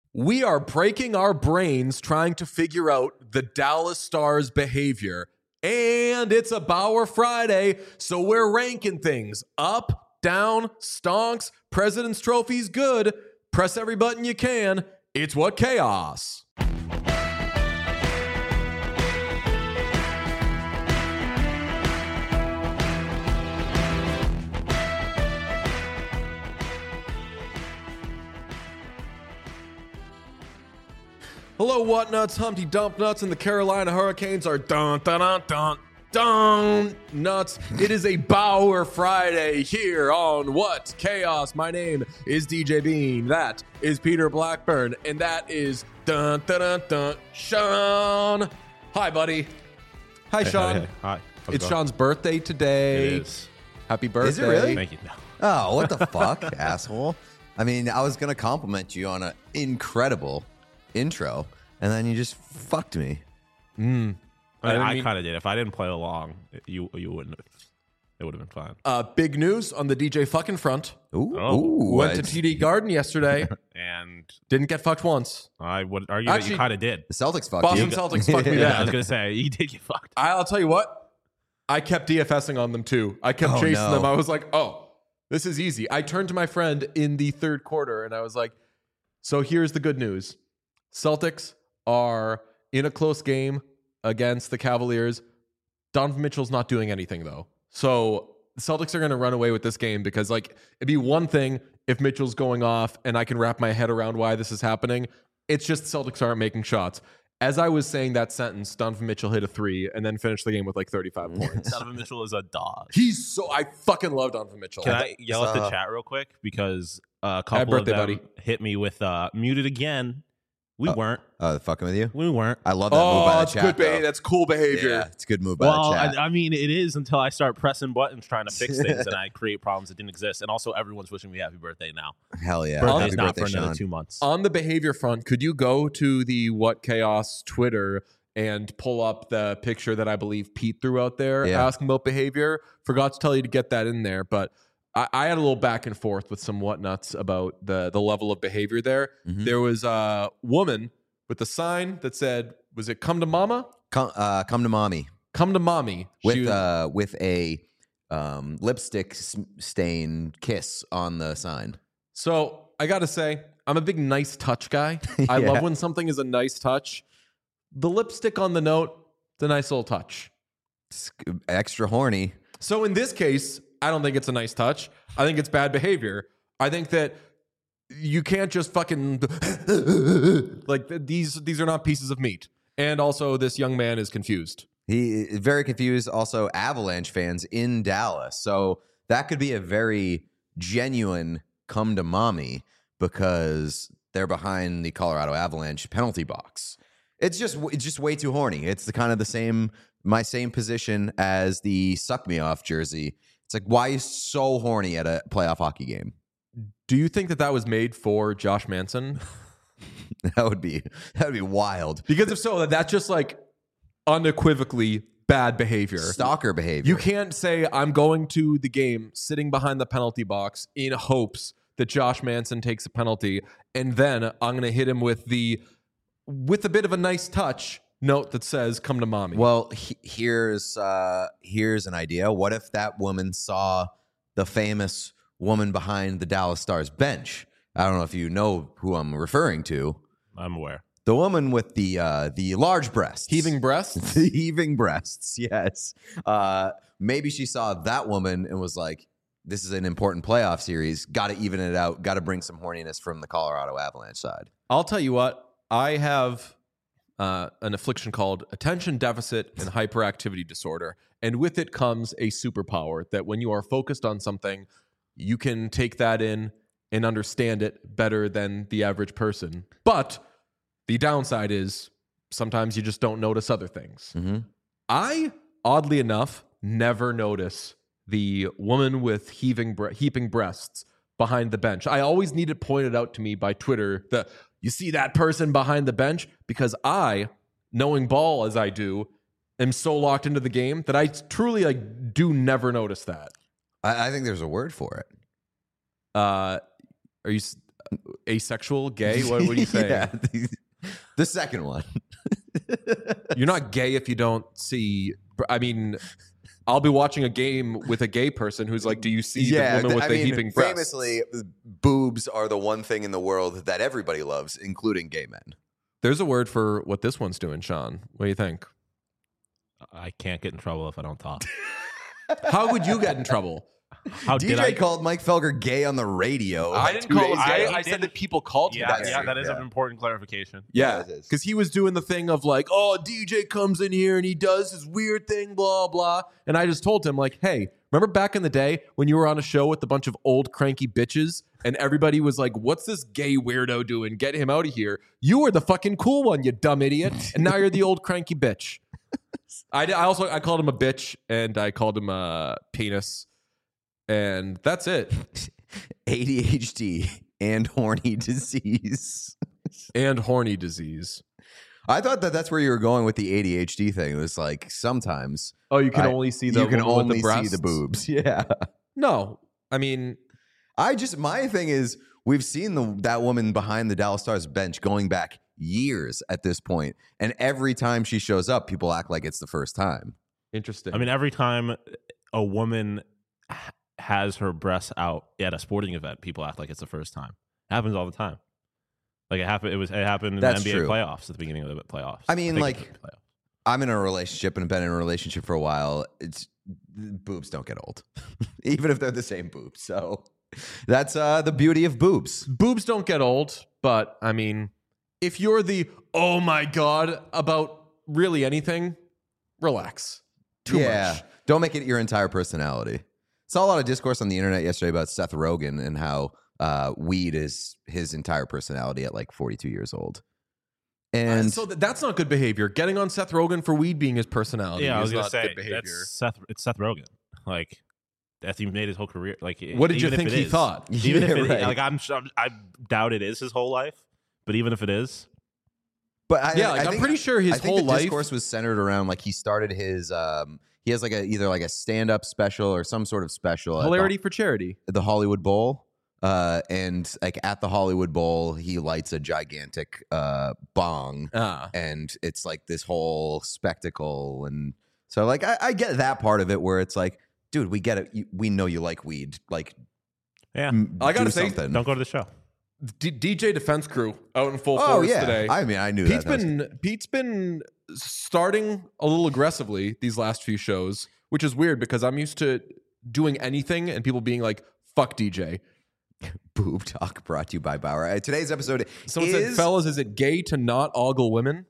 We are breaking our brains trying to figure out the Dallas Stars' behavior. And it's a Bauer Friday, so we're ranking things up, down, stonks, President's Trophy's good. Press every button you can. It's What Chaos. Hello, what nuts, Humpty Dump Nuts, and the Carolina Hurricanes are dun nuts. It is a Bauer Friday here on What Chaos. My name is DJ Bean. That is Peter Blackburn, and that is Sean. Hi, buddy. Hi, Sean. Hey. Hi. It's Sean's birthday today. It is. Happy birthday. Is it really? Thank you. No. Oh, what the fuck, asshole. I mean, I was going to compliment you on an incredible intro, and then you just fucked me. I kind of did. If I didn't play along, you wouldn't have. It would have been fine. Big news on the DJ fucking front. Ooh. Went to TD Garden yesterday. And Didn't get fucked once. I would argue that Actually, you kind of did. The Celtics fucked Boston you. Celtics fucked me Yeah, bad. I was going to say, you did get fucked. I'll tell you what, I kept DFSing on them too. I kept chasing no. them. I was like, oh, this is easy. I turned to my friend in the third quarter and I was like, so here's the good news. Celtics are in a close game against the Cavaliers. Donovan Mitchell's not doing anything though. So the Celtics are going to run away with this game because like it'd be one thing if Mitchell's going off and I can wrap my head around why this is happening. It's just the Celtics aren't making shots. As I was saying that sentence, Donovan Mitchell hit a 3 and then finished the game with like 35 points. Donovan Mitchell is a dog. I fucking love Donovan Mitchell. Can I yell at the chat real quick? Because a couple birthday, of them buddy. hit me with muted again. We weren't. Fucking with you? We weren't. I love that move by the that's chat. good behavior. though. That's cool behavior. Yeah, it's good move by Well, the chat. I mean, it is until I start pressing buttons trying to fix things and I create problems that didn't exist. And also, everyone's wishing me happy birthday now. Hell yeah. Birthday's Happy not birthday, for another Sean. 2 months. On the behavior front, could you go to the What Chaos Twitter and pull up the picture that I believe Pete threw out there asking about behavior? Forgot to tell you to get that in there, but I had a little back and forth with some whatnuts about the level of behavior there. Mhm. There was a woman with a sign that said, was it come to mama? Come to mommy. Come to mommy. With She was- with a lipstick stain kiss on the sign. So I got to say, I'm a big nice touch guy. I Yeah. love when something is a nice touch. The lipstick on the note, it's a nice little touch. It's extra horny. So in this case, I don't think it's a nice touch. I think it's bad behavior. I think that you can't just fucking like these are not pieces of meat. And also this young man is confused. He is very confused. Also, Avalanche fans in Dallas. So that could be a very genuine come to mommy because they're behind the Colorado Avalanche penalty box. It's just way too horny. It's my same position as the suck me off jersey. It's like, why are you so horny at a playoff hockey game? Do you think that was made for Josh Manson? That would be wild. Because if so, that's just like unequivocally bad behavior. Stalker behavior. You can't say I'm going to the game sitting behind the penalty box in hopes that Josh Manson takes a penalty, and then I'm going to hit him with a bit of a nice touch note that says "Come to mommy." Well, here's an idea. What if that woman saw the famous woman behind the Dallas Stars bench? I don't know if you know who I'm referring to. I'm aware. The woman with the large breasts. Heaving breasts. The heaving breasts, yes. Maybe she saw that woman and was like, this is an important playoff series. Got to even it out. Got to bring some horniness from the Colorado Avalanche side. I'll tell you what. I have an affliction called attention deficit and hyperactivity disorder, and with it comes a superpower that when you are focused on something, you can take that in and understand it better than the average person. But the downside is sometimes you just don't notice other things. Mm-hmm. I, oddly enough, never notice the woman with heaping breasts behind the bench. I always need it pointed out to me by Twitter that you see that person behind the bench, because I, knowing ball as I do, am so locked into the game that I truly do never notice that. I think there's a word for it. Are you asexual, gay? What do you say? Yeah, the second one. You're not gay if you don't see. I mean, I'll be watching a game with a gay person who's like, "Do you see the woman with the heaping breasts?" Famously, boobs are the one thing in the world that everybody loves, including gay men. There's a word for what this one's doing, Sean. What do you think? I can't get in trouble if I don't talk. How would you get in trouble? How did I? DJ called Mike Felger gay on the radio. I didn't call him gay. I He said did. that people called him Yeah, that. that is an important clarification. Yeah, Yeah, it is. because he was doing the thing of like, oh, DJ comes in here and he does his weird thing, blah, blah. And I just told him, like, hey, remember back in the day when you were on a show with a bunch of old cranky bitches and everybody was like, what's this gay weirdo doing? Get him out of here. You were the fucking cool one, you dumb idiot. And now you're the old cranky bitch. I called him a bitch and I called him a penis. And that's it. ADHD and horny disease. And horny disease. I thought that's where you were going with the ADHD thing. It was like sometimes Oh, you can only see the you can woman with only the breasts? see the boobs. Yeah. No, I mean, My thing is we've seen that woman behind the Dallas Stars bench going back years at this point, and every time she shows up, people act like it's the first time. interesting. I mean, every time a woman has her breasts out at a sporting event, people act like it's the first time. It happens all the time. Like it happened. It happened in That's the NBA true. playoffs at the beginning of the playoffs. I mean, think like, it was the playoffs. I'm in a relationship and have been in a relationship for a while. Boobs don't get old, even if they're the same boobs. So that's the beauty of boobs. Boobs don't get old, but I mean, if you're the oh my god about really anything, relax. Too much. Don't make it your entire personality. Saw a lot of discourse on the internet yesterday about Seth Rogen and how weed is his entire personality at like 42 years old. And So that's not good behavior. Getting on Seth Rogen for weed being his personality Yeah, I was is gonna not say good behavior. it's Seth Rogen. Like that's he made his whole career. Like What did you even if think it he is- thought? Even if Yeah, it, right. like I doubt it is his whole life. But even if it is, But I'm pretty sure his I think whole the life. discourse was centered around like he started his he has like either like a stand-up special or some sort of special Hilarity for charity. at the Hollywood Bowl. And like at the Hollywood Bowl, he lights a gigantic bong, and it's like this whole spectacle. And so like I get that part of it where it's like, dude, we get it. We know you like weed. Like, yeah, I gotta do say, something. don't go to the show. DJ Defense Crew out in full Oh force yeah, today. I mean, I knew Pete's been starting a little aggressively these last few shows, which is weird because I'm used to doing anything and people being like, "Fuck DJ." Boob Talk brought to you by Bauer. Today's episode Someone said, "Fellas, is it gay to not ogle women?"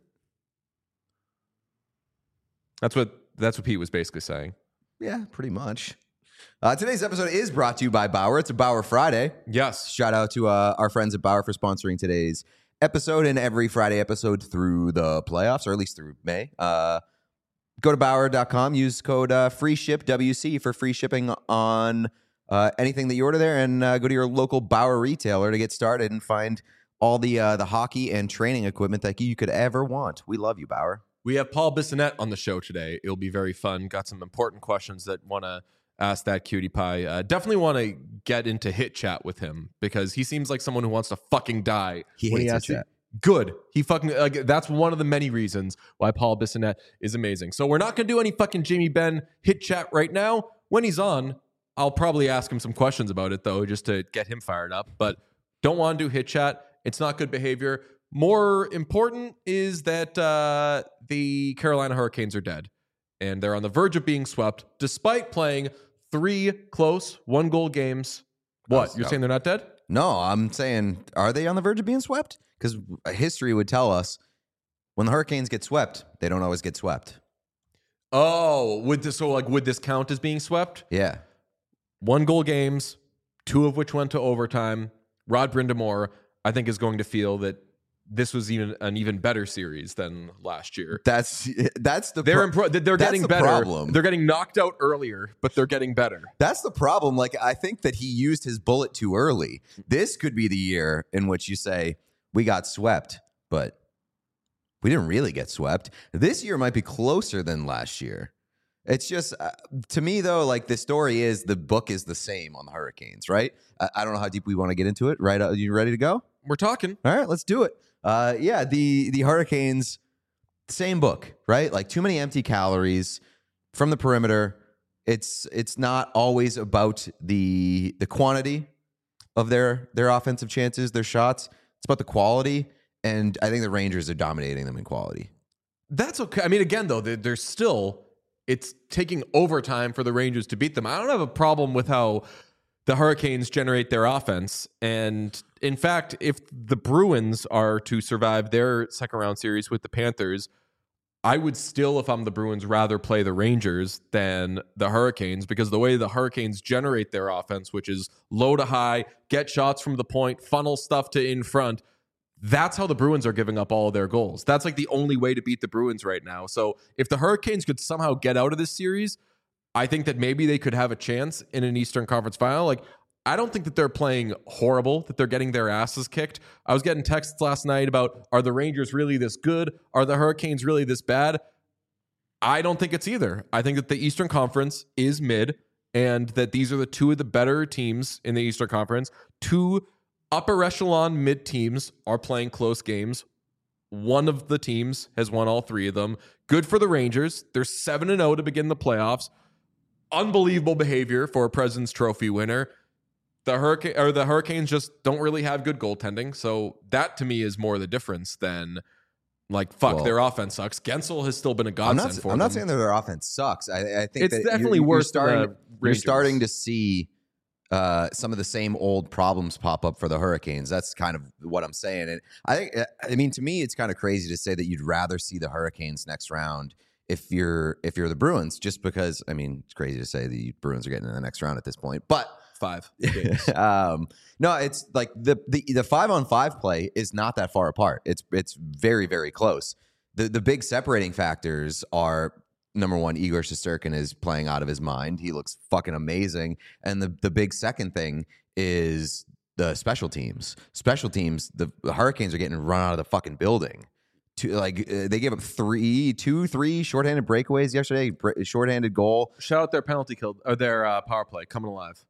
That's what Pete was basically saying. Yeah, pretty much. Today's episode is brought to you by Bauer. It's a Bauer Friday. Yes. Shout out to our friends at Bauer for sponsoring today's episode and every Friday episode through the playoffs, or at least through May. Go to Bauer.com, use code FREESHIPWC for free shipping on anything that you order there, and go to your local Bauer retailer to get started and find all the hockey and training equipment that you could ever want. We love you, Bauer. We have Paul Bissonnette on the show today. It'll be very fun. Got some important questions that want to ask that cutie pie. Definitely want to get into hit chat with him because he seems like someone who wants to fucking die. He when hates asks hit you- chat. Good. He fucking that's one of the many reasons why Paul Bissonnette is amazing. So we're not gonna do any fucking Jamie Benn hit chat right now. When he's on, I'll probably ask him some questions about it though, just to get him fired up. But don't want to do hit chat. It's not good behavior. More important is that the Carolina Hurricanes are dead, and they're on the verge of being swept, despite playing 3 close 1-goal games. What? You're saying they're not dead? No, I'm saying, are they on the verge of being swept? Because history would tell us when the Hurricanes get swept, they don't always get swept. Oh, would this count as being swept? Yeah. 1-goal games, 2 of which went to overtime. Rod Brindamore, I think, is going to feel that this was an even better series than last year. That's the They're that's getting the better. problem. They're getting knocked out earlier, but they're getting better. That's the problem. Like, I think that he used his bullet too early. This could be the year in which you say, we got swept, but we didn't really get swept. This year might be closer than last year. It's just to me though, like the story is the book is the same on the Hurricanes, right? I don't know how deep we want to get into it. Right? Are you ready to go? We're talking. All right, let's do it. Yeah, the Hurricanes, same book, right? Like too many empty calories from the perimeter. It's not always about the quantity of their offensive chances, their shots. It's about the quality, and I think the Rangers are dominating them in quality. That's okay. I mean, again, though, there's still, it's taking overtime for the Rangers to beat them. I don't have a problem with how the Hurricanes generate their offense. And in fact, if the Bruins are to survive their second round series with the Panthers, I would still, if I'm the Bruins, rather play the Rangers than the Hurricanes, because the way the Hurricanes generate their offense, which is low to high, get shots from the point, funnel stuff to in front, that's how the Bruins are giving up all of their goals. That's like the only way to beat the Bruins right now. So if the Hurricanes could somehow get out of this series, I think that maybe they could have a chance in an Eastern Conference final. Like, I don't think that they're playing horrible, that they're getting their asses kicked. I was getting texts last night about, are the Rangers really this good? Are the Hurricanes really this bad? I don't think it's either. I think that the Eastern Conference is mid, and that these are the two of the better teams in the Eastern Conference. Two upper echelon mid teams are playing close games. One of the teams has won all three of them. Good for the Rangers. They're 7-0 to begin the playoffs. Unbelievable behavior for a President's Trophy winner. The Hurricanes just don't really have good goaltending. So that to me is more the difference than like, their offense sucks. Gensel has still been a godsend for them. I'm not saying that their offense sucks. I think it's that definitely worse than the Rangers. You're starting to see some of the same old problems pop up for the Hurricanes. That's kind of what I'm saying. And I mean, to me, it's kind of crazy to say that you'd rather see the Hurricanes next round if you're the Bruins, just because, I mean, it's crazy to say the Bruins are getting in the next round at this point, but 5 games. No, it's like the 5-on-5 play is not that far apart. It's very, very close. The big separating factors are, number one, Igor Shesterkin is playing out of his mind. He looks fucking amazing. And the big second thing is the special teams. Special teams, the Hurricanes are getting run out of the fucking building. They gave up 3 shorthanded breakaways yesterday, shorthanded goal. Shout out their penalty kill, or their power play coming alive.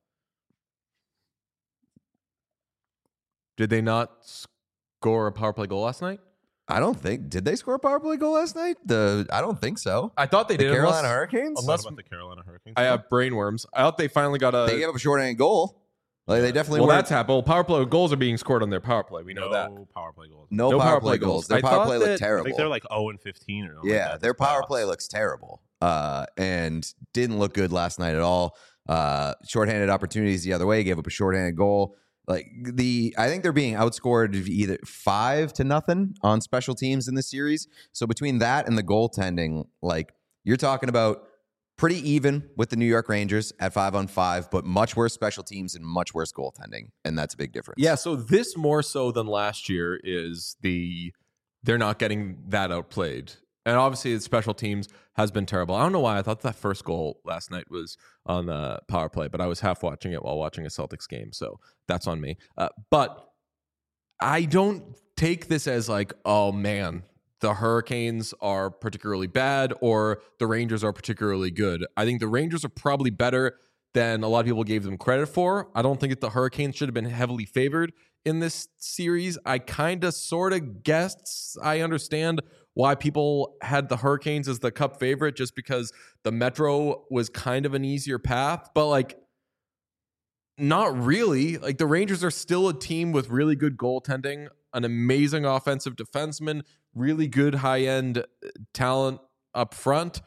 Did they not score a power play goal last night? I don't think. Did they score a power play goal last night? I don't think so. I thought they did. Carolina Hurricanes? Unless about the Carolina Hurricanes. I have brainworms. I thought they finally got They gave up a shorthanded goal. Like they definitely. Well, weren't. that's happened. Well, power play goals are being scored on their power play. We know that. No power play goals. No power play goals. Their power play looked I terrible. think they're like 0-15 or something. Yeah, like their power playoffs. play looks terrible, and didn't look good last night at all. Shorthanded opportunities the other way, gave up a shorthanded goal. I think they're being outscored either 5-0 on special teams in the series. So between that and the goaltending, like you're talking about pretty even with the New York Rangers at 5-on-5, but much worse special teams and much worse goaltending, and that's a big difference. Yeah, so this more so than last year is they're not getting that outplayed. And obviously the special teams has been terrible. I don't know why I thought that first goal last night was on the power play, but I was half watching it while watching a Celtics game, so that's on me. But I don't take this as like, oh man, the Hurricanes are particularly bad or the Rangers are particularly good. I think the Rangers are probably better than a lot of people gave them credit for. I don't think that the Hurricanes should have been heavily favored in this series. I kind of sort of guessed. I understand why people had the Hurricanes as the Cup favorite, just because the Metro was kind of an easier path, but like not really. Like the Rangers are still a team with really good goaltending, an amazing offensive defenseman, really good high-end talent up front.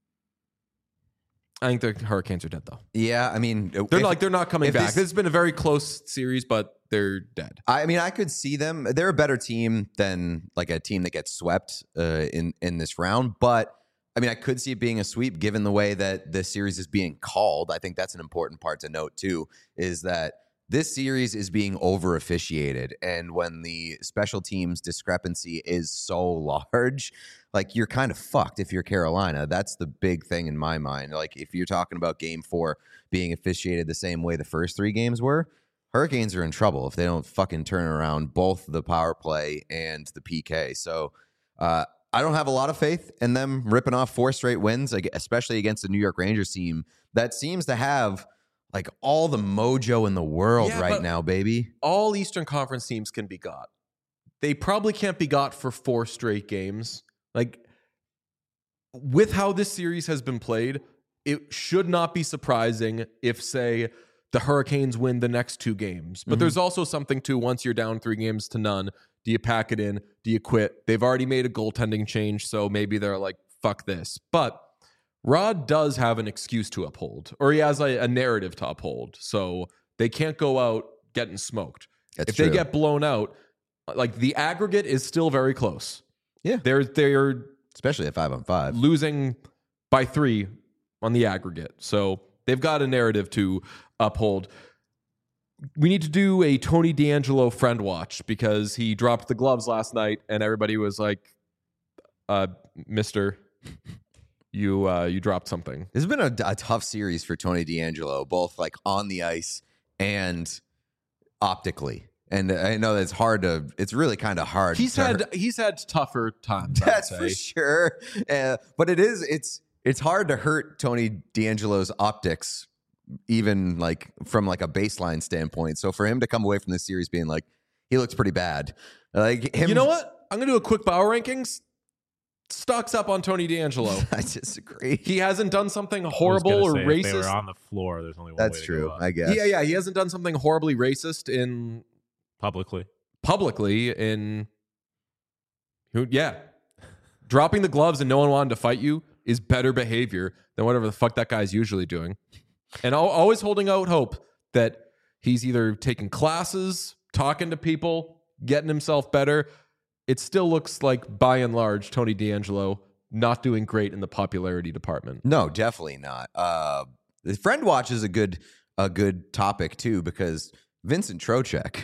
I think the Hurricanes are dead, though. Yeah, I mean, they're not coming back. This has been a very close series, but they're dead. I mean, I could see them. They're a better team than like a team that gets swept in this round. But I mean, I could see it being a sweep given the way that the series is being called. I think that's an important part to note too, is that this series is being over officiated, and when the special teams discrepancy is so large, like you're kind of fucked if you're Carolina. That's the big thing in my mind. Like if you're talking about Game 4 being officiated the same way the first 3 games were, Hurricanes are in trouble if they don't fucking turn around both the power play and the PK. So I don't have a lot of faith in them ripping off 4 straight wins, like, especially against the New York Rangers team that seems to have like all the mojo in the world right now, baby. All Eastern Conference teams can be got. They probably can't be got for 4 straight games. Like, with how this series has been played, it should not be surprising if, say, the Hurricanes win the next 2 games. But there's also something to, once you're down 3-0, do you pack it in? Do you quit? They've already made a goaltending change, so maybe they're like, fuck this. But Rod does have an excuse to uphold, or he has a narrative to uphold. So they can't go out getting smoked. That's if true. they get blown out, like, the aggregate is still very close. Yeah. They're Especially at 5-on-5. losing by 3 on the aggregate. So they've got a narrative to uphold. We need to do a Tony DeAngelo friend watch because he dropped the gloves last night and everybody was like, mister, you dropped something. This has been a tough series for Tony DeAngelo, both like on the ice and optically. And I know that it's really kind of hard. He's had tougher times. That's I'd for say. sure. But it's hard to hurt Tony DeAngelo's optics, even like from like a baseline standpoint. So for him to come away from this series being like, he looks pretty bad. Like him, You know what? I'm gonna do a quick power rankings. Stocks up on Tony DeAngelo. I disagree. He hasn't done something I was horrible gonna or say, racist. If they were on the floor, there's only one That's way to true, go up. I guess. Yeah, he hasn't done something horribly racist in Publicly. Dropping the gloves and no one wanted to fight you is better behavior than whatever the fuck that guy's usually doing. And always holding out hope that he's either taking classes, talking to people, getting himself better. It still looks like, by and large, Tony DeAngelo not doing great in the popularity department. No, definitely not. The friend watch is a good topic too, because Vincent Trocheck,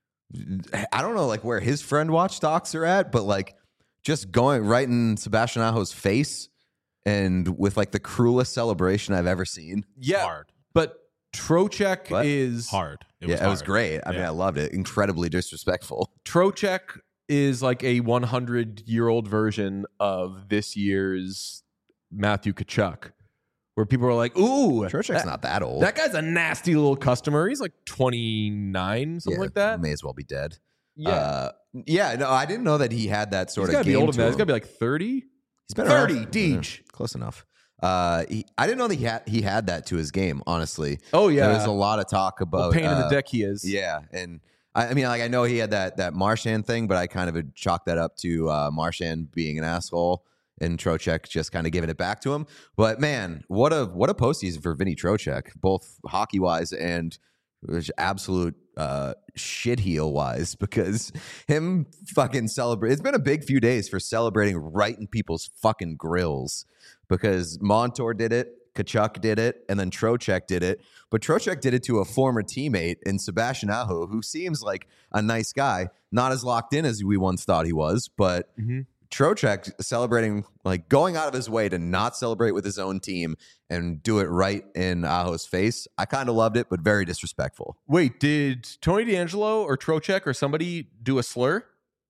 I don't know like where his friend watch stocks are at, but like just going right in Sebastian Aho's face and with like the cruelest celebration I've ever seen. Yeah, Hard. but Trocheck What? is Hard. It was hard. great. I mean, Yeah. I loved it. Incredibly disrespectful. Trocheck is like a 100-year-old version of this year's Matthew Tkachuk, where people are like, "Ooh, Trocheck's not that old. that guy's a nasty little customer. He's like 29, something like that." May as well be dead. Yeah, No, I didn't know that he had that sort he's of gotta be game older to than that. He's him. gotta be like 30. He's been 30, around- Deej. Close enough. I didn't know that he had that to his game. Honestly, Oh yeah, there was a lot of talk about pain in the dick he is. Yeah, and I mean, like I know he had that Marchand thing, but I kind of had chalked that up to Marchand being an asshole and Trocheck just kind of giving it back to him. But man, what a postseason for Vinny Trocheck, both hockey wise and absolute shit heel wise, because him fucking celebrate. It's been a big few days for celebrating right in people's fucking grills, because Montour did it, Tkachuk did it, and then Trocheck did it. But Trocheck did it to a former teammate in Sebastian Aho, who seems like a nice guy, not as locked in as we once thought he was, but Trocheck celebrating, like going out of his way to not celebrate with his own team and do it right in Aho's face. I kind of loved it, but very disrespectful. Wait, did Tony DeAngelo or Trocheck or somebody do a slur?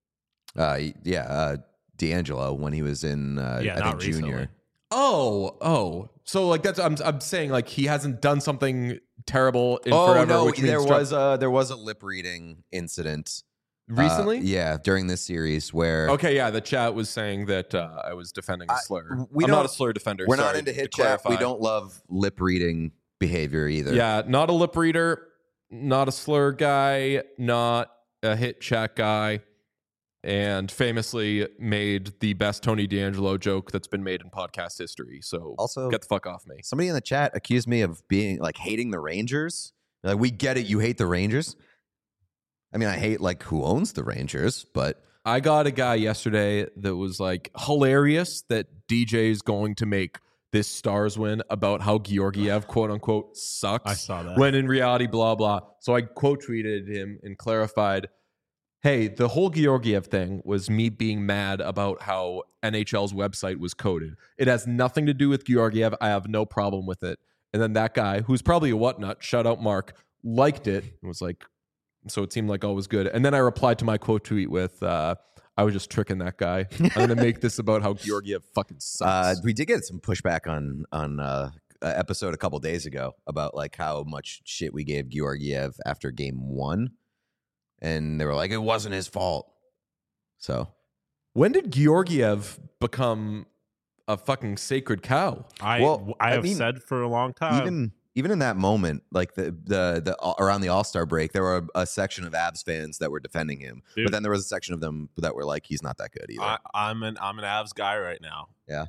D'Angelo when he was in I think not junior. recently. Oh. So like that's I'm saying like he hasn't done something terrible in forever. No, which means there was a lip reading incident recently. during this series where Okay, yeah, the chat was saying that I was defending a slur. we I'm not don't- a slur defender. we're not sorry, into to hit chat. We clarify. don't love lip reading behavior either. Yeah, not a lip reader, not a slur guy, not a hit chat guy, and famously made the best Tony DeAngelo joke that's been made in podcast history. So Also, get the fuck off me. somebody in the chat accused me of being like hating the Rangers. Like, we get it, you hate the Rangers. I mean, I hate like who owns the Rangers, but I got a guy yesterday that was like hilarious that DJ is going to make this Stars win about how Georgiev quote unquote sucks. I saw that. When in reality, blah blah. So I quote tweeted him and clarified, "Hey, the whole Georgiev thing was me being mad about how NHL's website was coded. It has nothing to do with Georgiev. I have no problem with it." And then that guy, who's probably a whatnut, shout out Mark, liked it and was like, so it seemed like all was good. And then I replied to my quote tweet with, I was just tricking that guy. I'm going to make this about how Georgiev fucking sucks. We did get some pushback on episode a couple days ago about like how much shit we gave Georgiev after game 1, and they were like, it wasn't his fault. So When did Georgiev become a fucking sacred cow? I have said for a long time. even in that moment, like the around the All-Star break, there were a section of Avs fans that were defending him, Dude. but then there was a section of them that were like, he's not that good either. I'm an Avs guy right now. Yeah.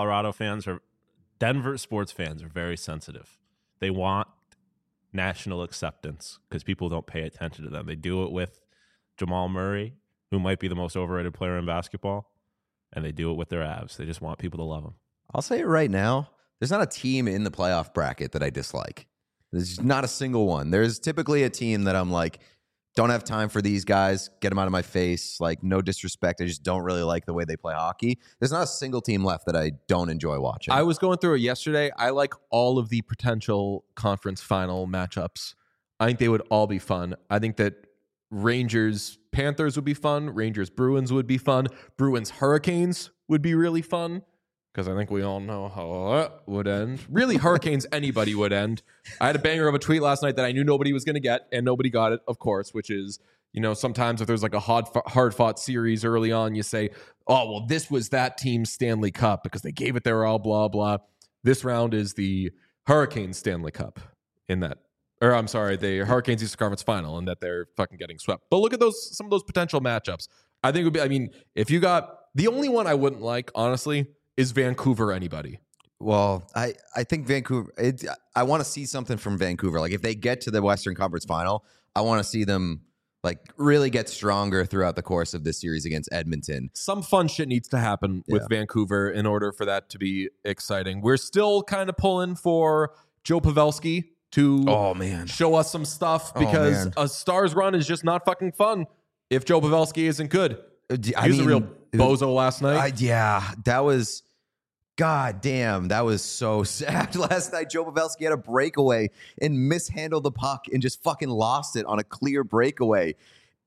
Denver sports fans are very sensitive. They want national acceptance because people don't pay attention to them. They do it with Jamal Murray, who might be the most overrated player in basketball, and they do it with their Avs. They just want people to love them. I'll say it right now. There's not a team in the playoff bracket that I dislike. There's not a single one. There's typically a team that I'm like, don't have time for these guys. Get them out of my face. Like, no disrespect. I just don't really like the way they play hockey. There's not a single team left that I don't enjoy watching. I was going through it yesterday. I like all of the potential conference final matchups. I think they would all be fun. I think that Rangers Panthers would be fun. Rangers Bruins would be fun. Bruins Hurricanes would be really fun, because I think we all know how that would end. Really, Hurricanes, anybody would end. I had a banger of a tweet last night that I knew nobody was going to get, and nobody got it, of course, which is, you know, sometimes if there's like a hard-fought series early on, you say, oh, well, this was that team's Stanley Cup because they gave it their all, blah, blah. This round is the Hurricanes Stanley Cup in that. Or I'm sorry, the Hurricanes Eastern Conference Final, and that they're fucking getting swept. But look at some of those potential matchups. I think it would be, I mean, if you got, the only one I wouldn't like, honestly, is Vancouver anybody. Well, I think Vancouver, I want to see something from Vancouver. Like, if they get to the Western Conference Final, I want to see them like really get stronger throughout the course of this series against Edmonton. Some fun shit needs to happen with Vancouver in order for that to be exciting. We're still kind of pulling for Joe Pavelski to show us some stuff, because a Stars run is just not fucking fun if Joe Pavelski isn't good. He was a real bozo last night. That was, god damn, that was so sad. Last night, Joe Pavelski had a breakaway and mishandled the puck and just fucking lost it on a clear breakaway.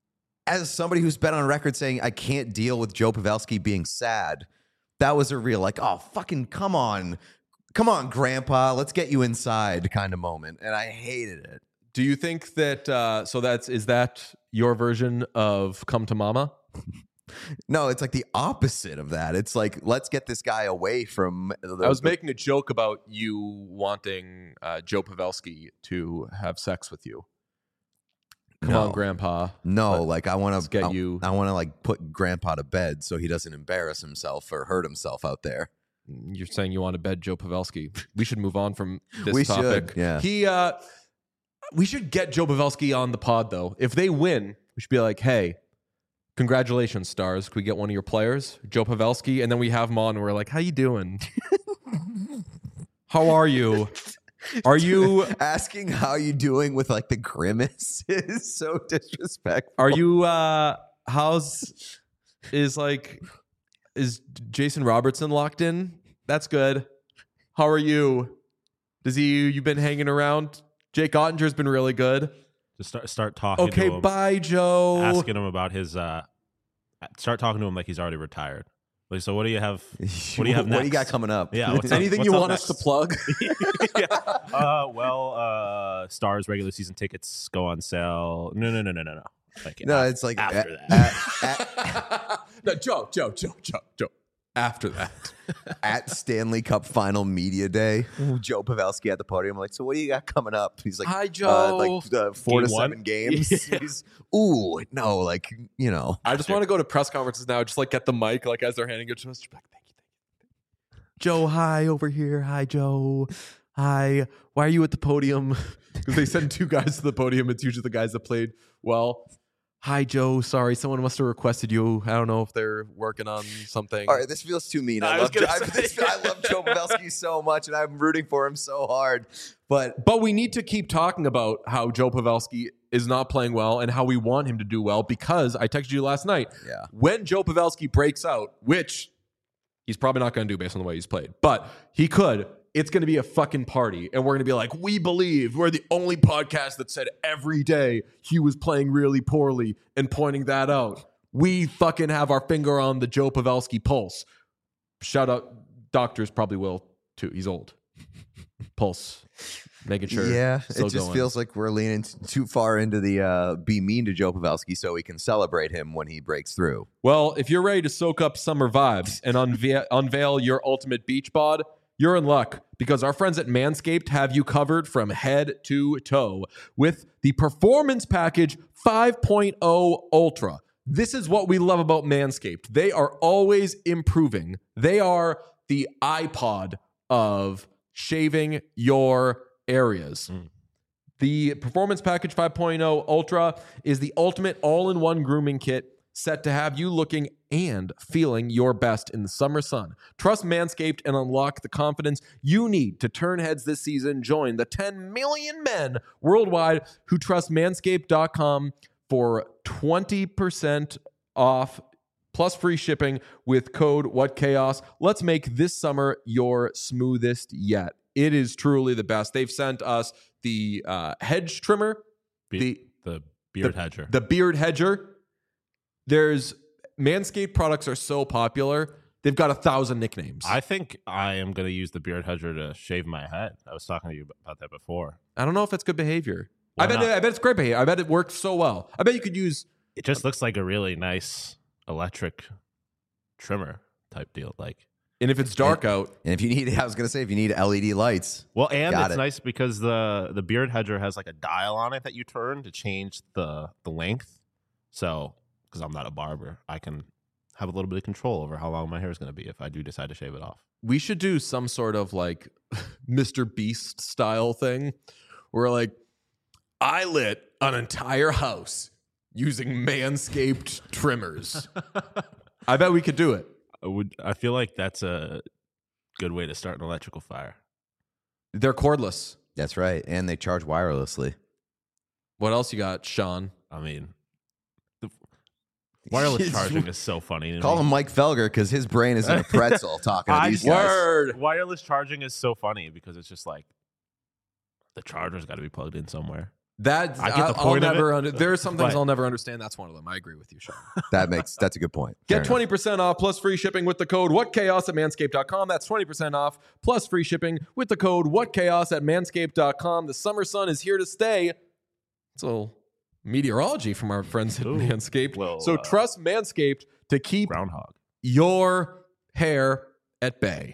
As somebody who's been on record saying, I can't deal with Joe Pavelski being sad, that was a real like, oh, fucking come on, grandpa, let's get you inside kind of moment. And I hated it. Do you think that, is that your version of Come to Mama? No, it's like the opposite of that. It's like, let's get this guy away from. I was making a joke about you wanting Joe Pavelski to have sex with you. Come on, Grandpa. No, like I want to get you. I want to like put Grandpa to bed so he doesn't embarrass himself or hurt himself out there. You're saying you want to bed Joe Pavelski. We should move on from this topic. Should, yeah. We should get Joe Pavelski on the pod, though. If they win, we should be like, hey, congratulations, Stars. Can we get one of your players, Joe Pavelski? And then we have him on and we're like, how you doing? How are you? Are you asking how you doing with like the grimace is so disrespectful. Are you is Jason Robertson locked in? That's good. How are you? You've been hanging around? Jake Ottinger's been really good. Just start talking to him. Okay, bye, Joe. Asking him about his start talking to him like he's already retired. Like, so what do you have? What do you have next? What do you got coming up? Yeah. Anything you want us to plug? Stars regular season tickets go on sale. No. Like, it's like after that. No, Joe. After that, at Stanley Cup Final Media Day, Joe Pavelski at the podium. I'm like, so what do you got coming up? He's like, hi, Joe. 4 to 7 games. Yeah. He's, like, you know. I just want to go to press conferences now. Just like get the mic, like as they're handing it to us. Thank you. Joe, hi over here. Hi, Joe. Hi. Why are you at the podium? Because they send 2 guys to the podium. It's usually the guys that played well. Hi, Joe. Sorry, someone must have requested you. I don't know if they're working on something. All right, this feels too mean. I love Joe Pavelski so much, and I'm rooting for him so hard. But we need to keep talking about how Joe Pavelski is not playing well and how we want him to do well, because I texted you last night. Yeah. When Joe Pavelski breaks out, which he's probably not going to do based on the way he's played, but he could. It's going to be a fucking party, and we're going to be like, we believe. We're the only podcast that said every day he was playing really poorly and pointing that out. We fucking have our finger on the Joe Pavelski pulse. Shout out, doctors probably will too. He's old. Pulse. Making sure. Yeah, still it just going. feels like we're leaning too far into the be mean to Joe Pavelski so we can celebrate him when he breaks through. Well, if you're ready to soak up summer vibes and unveil your ultimate beach bod, you're in luck because our friends at Manscaped have you covered from head to toe with the Performance Package 5.0 Ultra. This is what we love about Manscaped. They are always improving. They are the iPod of shaving your areas. The Performance Package 5.0 Ultra is the ultimate all-in-one grooming kit set to have you looking and feeling your best in the summer sun. Trust Manscaped and unlock the confidence you need to turn heads this season. Join the 10 million men worldwide who trust Manscaped.com for 20% off plus free shipping with code WhatChaos. Let's make this summer your smoothest yet. It is truly the best. They've sent us the hedge trimmer, the beard hedger. the beard hedger. There's Manscaped products are so popular. They've got 1,000 nicknames. I think I am going to use the beard hedger to shave my head. I was talking to you about that before. I don't know if it's good behavior. Why I bet it's great behavior. I bet it works so well. I bet you could use. It just looks like a really nice electric trimmer type deal. And if it's dark out, And if you need, I was going to say, if you need LED lights, Well, and Got it's it. nice because the beard hedger has like a dial on it that you turn to change the length. So, because I'm not a barber, I can have a little bit of control over how long my hair is going to be if I do decide to shave it off. we should do some sort of like Mr. Beast style thing where like I lit an entire house using Manscaped trimmers. I bet we could do it. I feel like that's a good way to start an electrical fire. They're cordless. that's right. And they charge wirelessly. What else you got, Sean? I mean, the wireless charging is so funny to Call me. him Mike Felger because his brain is in a pretzel talking to these guys. Word. Wireless charging is so funny because it's just like the charger's got to be plugged in somewhere. That I get the I'll point of never it, there are some things but- I'll never understand. That's one of them. I agree with you, Sean. That's a good point. Get Fair enough. 20% off plus free shipping with the code WhatChaos at Manscaped.com. That's 20% off plus free shipping with the code WhatChaos at Manscaped.com. The summer sun is here to stay. It's a little meteorology from our friends at Ooh, Manscaped. well, So trust Manscaped to keep Groundhog. your hair at bay.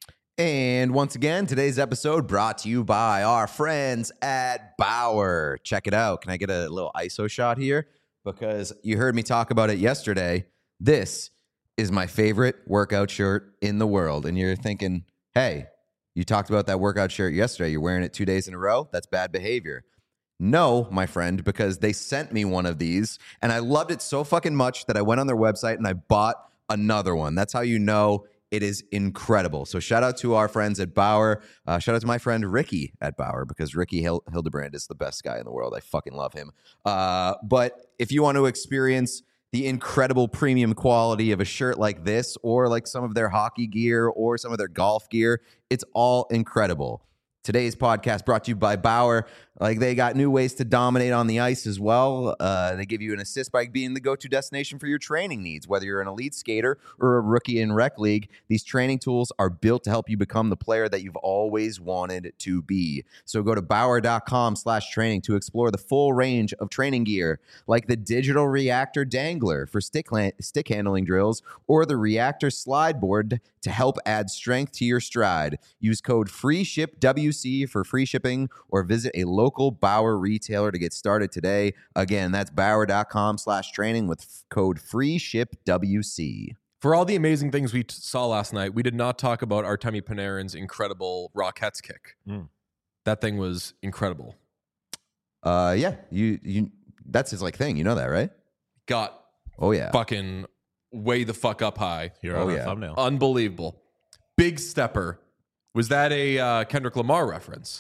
And once again, today's episode brought to you by our friends at Bauer. Check it out. Can I get a little ISO shot here? Because you heard me talk about it yesterday. This is my favorite workout shirt in the world. And you're thinking, hey, you talked about that workout shirt yesterday. You're wearing it 2 days in a row. That's bad behavior. No, my friend, because they sent me one of these and I loved it so fucking much that I went on their website and I bought another one. That's how you know it is incredible. So shout out to our friends at Bauer. Shout out to my friend Ricky at Bauer because Ricky Hildebrand is the best guy in the world. I fucking love him. But if you want to experience the incredible premium quality of a shirt like this or like some of their hockey gear or some of their golf gear, it's all incredible. Today's podcast brought to you by Bauer. Like they got new ways to dominate on the ice as well. They give you an assist by being the go-to destination for your training needs. Whether you're an elite skater or a rookie in rec league, these training tools are built to help you become the player that you've always wanted to be. So go to Bauer.com/training to explore the full range of training gear, like the digital reactor dangler for stick handling drills or the reactor slide board to help add strength to your stride. Use code FREESHIPWC for free shipping or visit a local Bauer retailer to get started today. Again, that's Bauer.com/training with code FREESHIPWC. For all the amazing things we saw last night, we did not talk about Artemi Panarin's incredible Rockettes kick. That thing was incredible. Yeah, you that's his like thing. You know that, right? Got Oh yeah. fucking way the fuck up high. Here Oh, on the yeah. thumbnail. Unbelievable. Big stepper. Was that a Kendrick Lamar reference?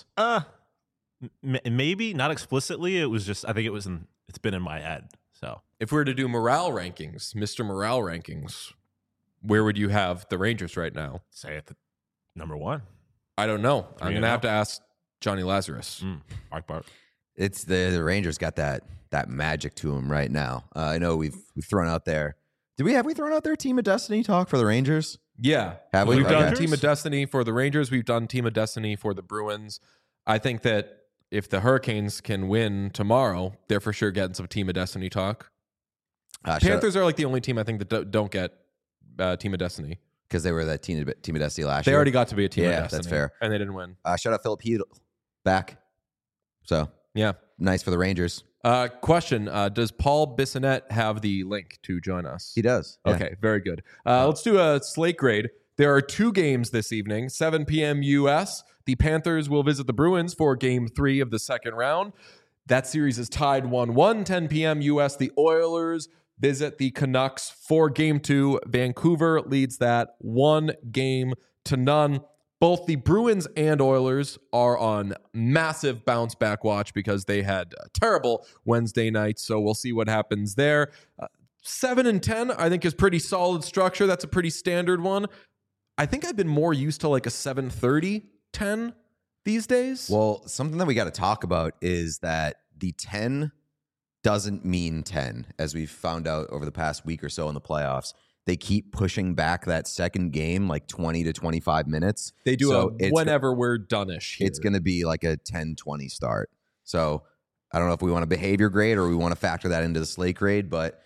Maybe not explicitly. It was just I think it's been in my head. So If we were to do morale rankings, Mr. Morale rankings, where would you have the Rangers right now? say it number one. I don't know. I'm going to 3-0. have to ask Johnny Lazarus. Mark Bart. It's the Rangers got that magic to them right now. I know we've thrown out there. Have we thrown out their Team of Destiny talk for the Rangers? Yeah. Have we? We've done Okay. Team of Destiny for the Rangers. We've done Team of Destiny for the Bruins. I think that if the Hurricanes can win tomorrow, they're for sure getting some Team of Destiny talk. Panthers are like the only team I think that don't get Team of Destiny. Because they were that Team of Destiny last They year. already got to be a Team of Yeah, Destiny. that's fair. And they didn't win. Shout out Philip Hedl back. So Yeah. nice for the Rangers. Question: does Paul Bissonnette have the link to join us? He does. Yeah. Okay, very good. Let's do a slate grade. There are 2 games this evening, 7 p.m. U.S. The Panthers will visit the Bruins for Game 3 of the second round. That series is tied 1-1, 10 p.m. U.S. The Oilers visit the Canucks for Game 2. Vancouver leads that 1-0. Both the Bruins and Oilers are on massive bounce back watch because they had a terrible Wednesday night. So we'll see what happens there. 7 and 10, I think, is pretty solid structure. That's a pretty standard one. I think I've been more used to like a 7-30-10 these days. Well, something that we got to talk about is that the 10 doesn't mean 10, as we've found out over the past week or so in the playoffs. They keep pushing back that second game like 20 to 25 minutes. They do So whenever we're done-ish here. It's going to be like a 10-20 start. So I don't know if we want a behavior grade or we want to factor that into the slate grade. But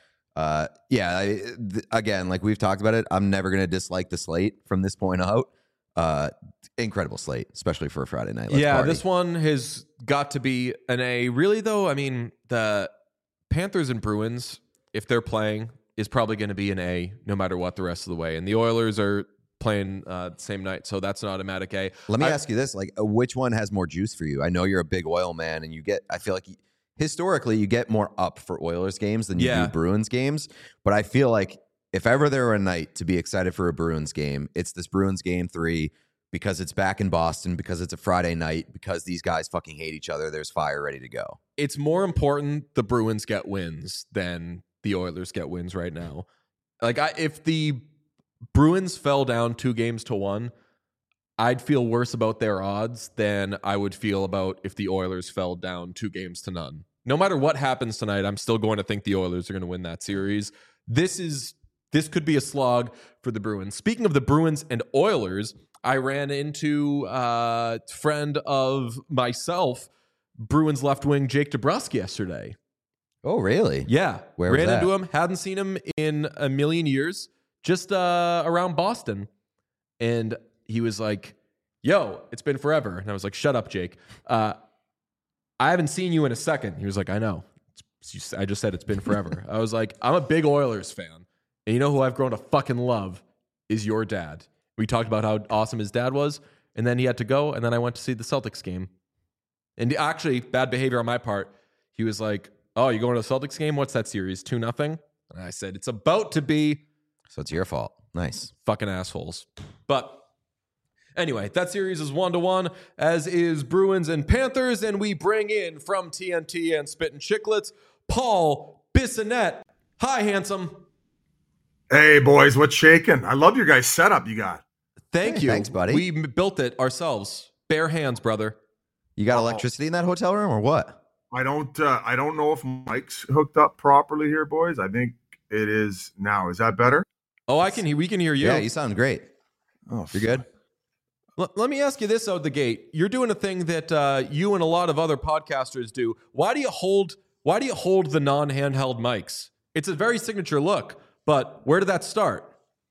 again, like we've talked about it, I'm never going to dislike the slate from this point out. Incredible slate, especially for a Friday night. Let's party. This one has got to be an A. Really, though, I mean, the Panthers and Bruins, if they're playing, is probably going to be an A no matter what the rest of the way. And the Oilers are playing the same night, so that's an automatic A. Let me ask you this, like which one has more juice for you? I know you're a big Oil man and I feel like historically you get more up for Oilers games than you do Bruins games, but I feel like if ever there were a night to be excited for a Bruins game, it's this Bruins Game 3 because it's back in Boston, because it's a Friday night, because these guys fucking hate each other. There's fire ready to go. It's more important the Bruins get wins than the Oilers get wins right now. Like if the Bruins fell down 2-1, I'd feel worse about their odds than I would feel about if the Oilers fell down 2-0. No matter what happens tonight, I'm still going to think the Oilers are going to win that series. This could be a slog for the Bruins. Speaking of the Bruins and Oilers, I ran into a friend of myself, Bruins left wing Jake DeBrusk yesterday. Oh, really? Yeah. Where was ran that? into him. Hadn't seen him in a million years. Just around Boston. And he was like, yo, it's been forever. And I was like, shut up, Jake. I haven't seen you in a second. He was like, I know. I just said it's been forever. I was like, I'm a big Oilers fan. And you know who I've grown to fucking love is your dad. We talked about how awesome his dad was. And then he had to go. And then I went to see the Celtics game. And actually, bad behavior on my part. He was like, oh, you going to the Celtics game? What's that series? 2-0? And I said, it's about to be. So it's your fault. Nice. Fucking assholes. But anyway, that series is 1-1, as is Bruins and Panthers. And we bring in from TNT and Spittin' Chicklets, Paul Bissonnette. Hi, handsome. Hey, boys, what's shaking? I love your guys' setup you got. Thank you. Thanks, buddy. We built it ourselves. Bare hands, brother. You got electricity in that hotel room or what? I don't know if Mike's hooked up properly here, boys. I think it is now. Is that better? Oh, we can hear you. Yeah, you sound great. Oh, You're good? Let me ask you this out the gate. You're doing a thing that you and a lot of other podcasters do. Why do you hold the non-handheld mics? It's a very signature look, but where did that start?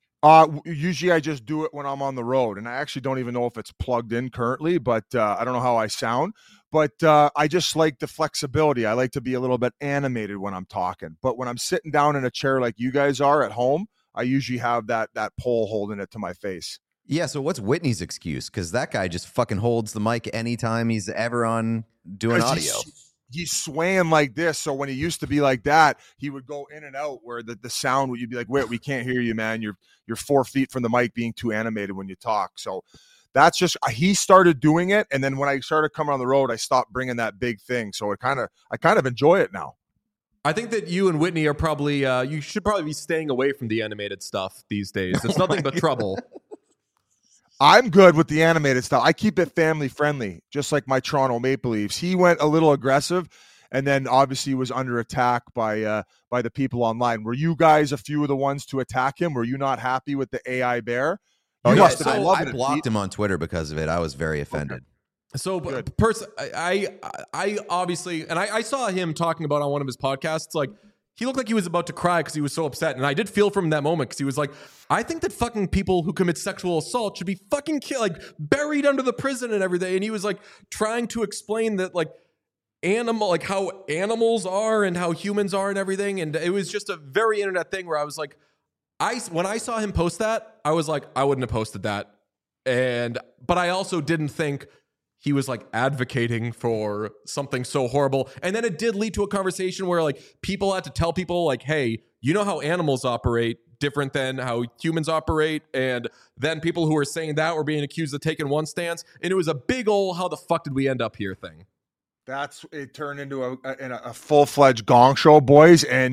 Usually I just do it when I'm on the road, and I actually don't even know if it's plugged in currently, but I don't know how I sound. But I just like the flexibility. I like to be a little bit animated when I'm talking. But when I'm sitting down in a chair like you guys are at home, I usually have that pole holding it to my face. Yeah, so what's Whitney's excuse? Because that guy just fucking holds the mic anytime he's ever on doing audio. He's swaying like this. So when he used to be like that, he would go in and out where the sound would, you'd be like, wait, we can't hear you, man. You're 4 feet from the mic being too animated when you talk. So that's just, he started doing it. And then when I started coming on the road, I stopped bringing that big thing. So I kind of enjoy it now. I think that you and Whitney are probably, you should probably be staying away from the animated stuff these days. It's nothing but trouble. I'm good with the animated stuff. I keep it family friendly, just like my Toronto Maple Leafs. He went a little aggressive, and then obviously was under attack by the people online. Were you guys a few of the ones to attack him? Were you not happy with the AI bear? Oh, You yeah. must have been So loving I it, blocked Pete. him on Twitter because of it. I was very offended. So, Good. I obviously, and I saw him talking about on one of his podcasts, like, he looked like he was about to cry because he was so upset. And I did feel for him in that moment because he was like, I think that fucking people who commit sexual assault should be fucking killed, like buried under the prison and everything. And he was like trying to explain that, like, like how animals are and how humans are and everything. And it was just a very internet thing where I was like, when I saw him post that, I was like, I wouldn't have posted that. But I also didn't think he was like advocating for something so horrible. And then it did lead to a conversation where like people had to tell people like, hey, you know how animals operate different than how humans operate. And then people who were saying that were being accused of taking one stance. And it was a big old, how the fuck did we end up here thing. That's it turned into a full-fledged gong show, boys. And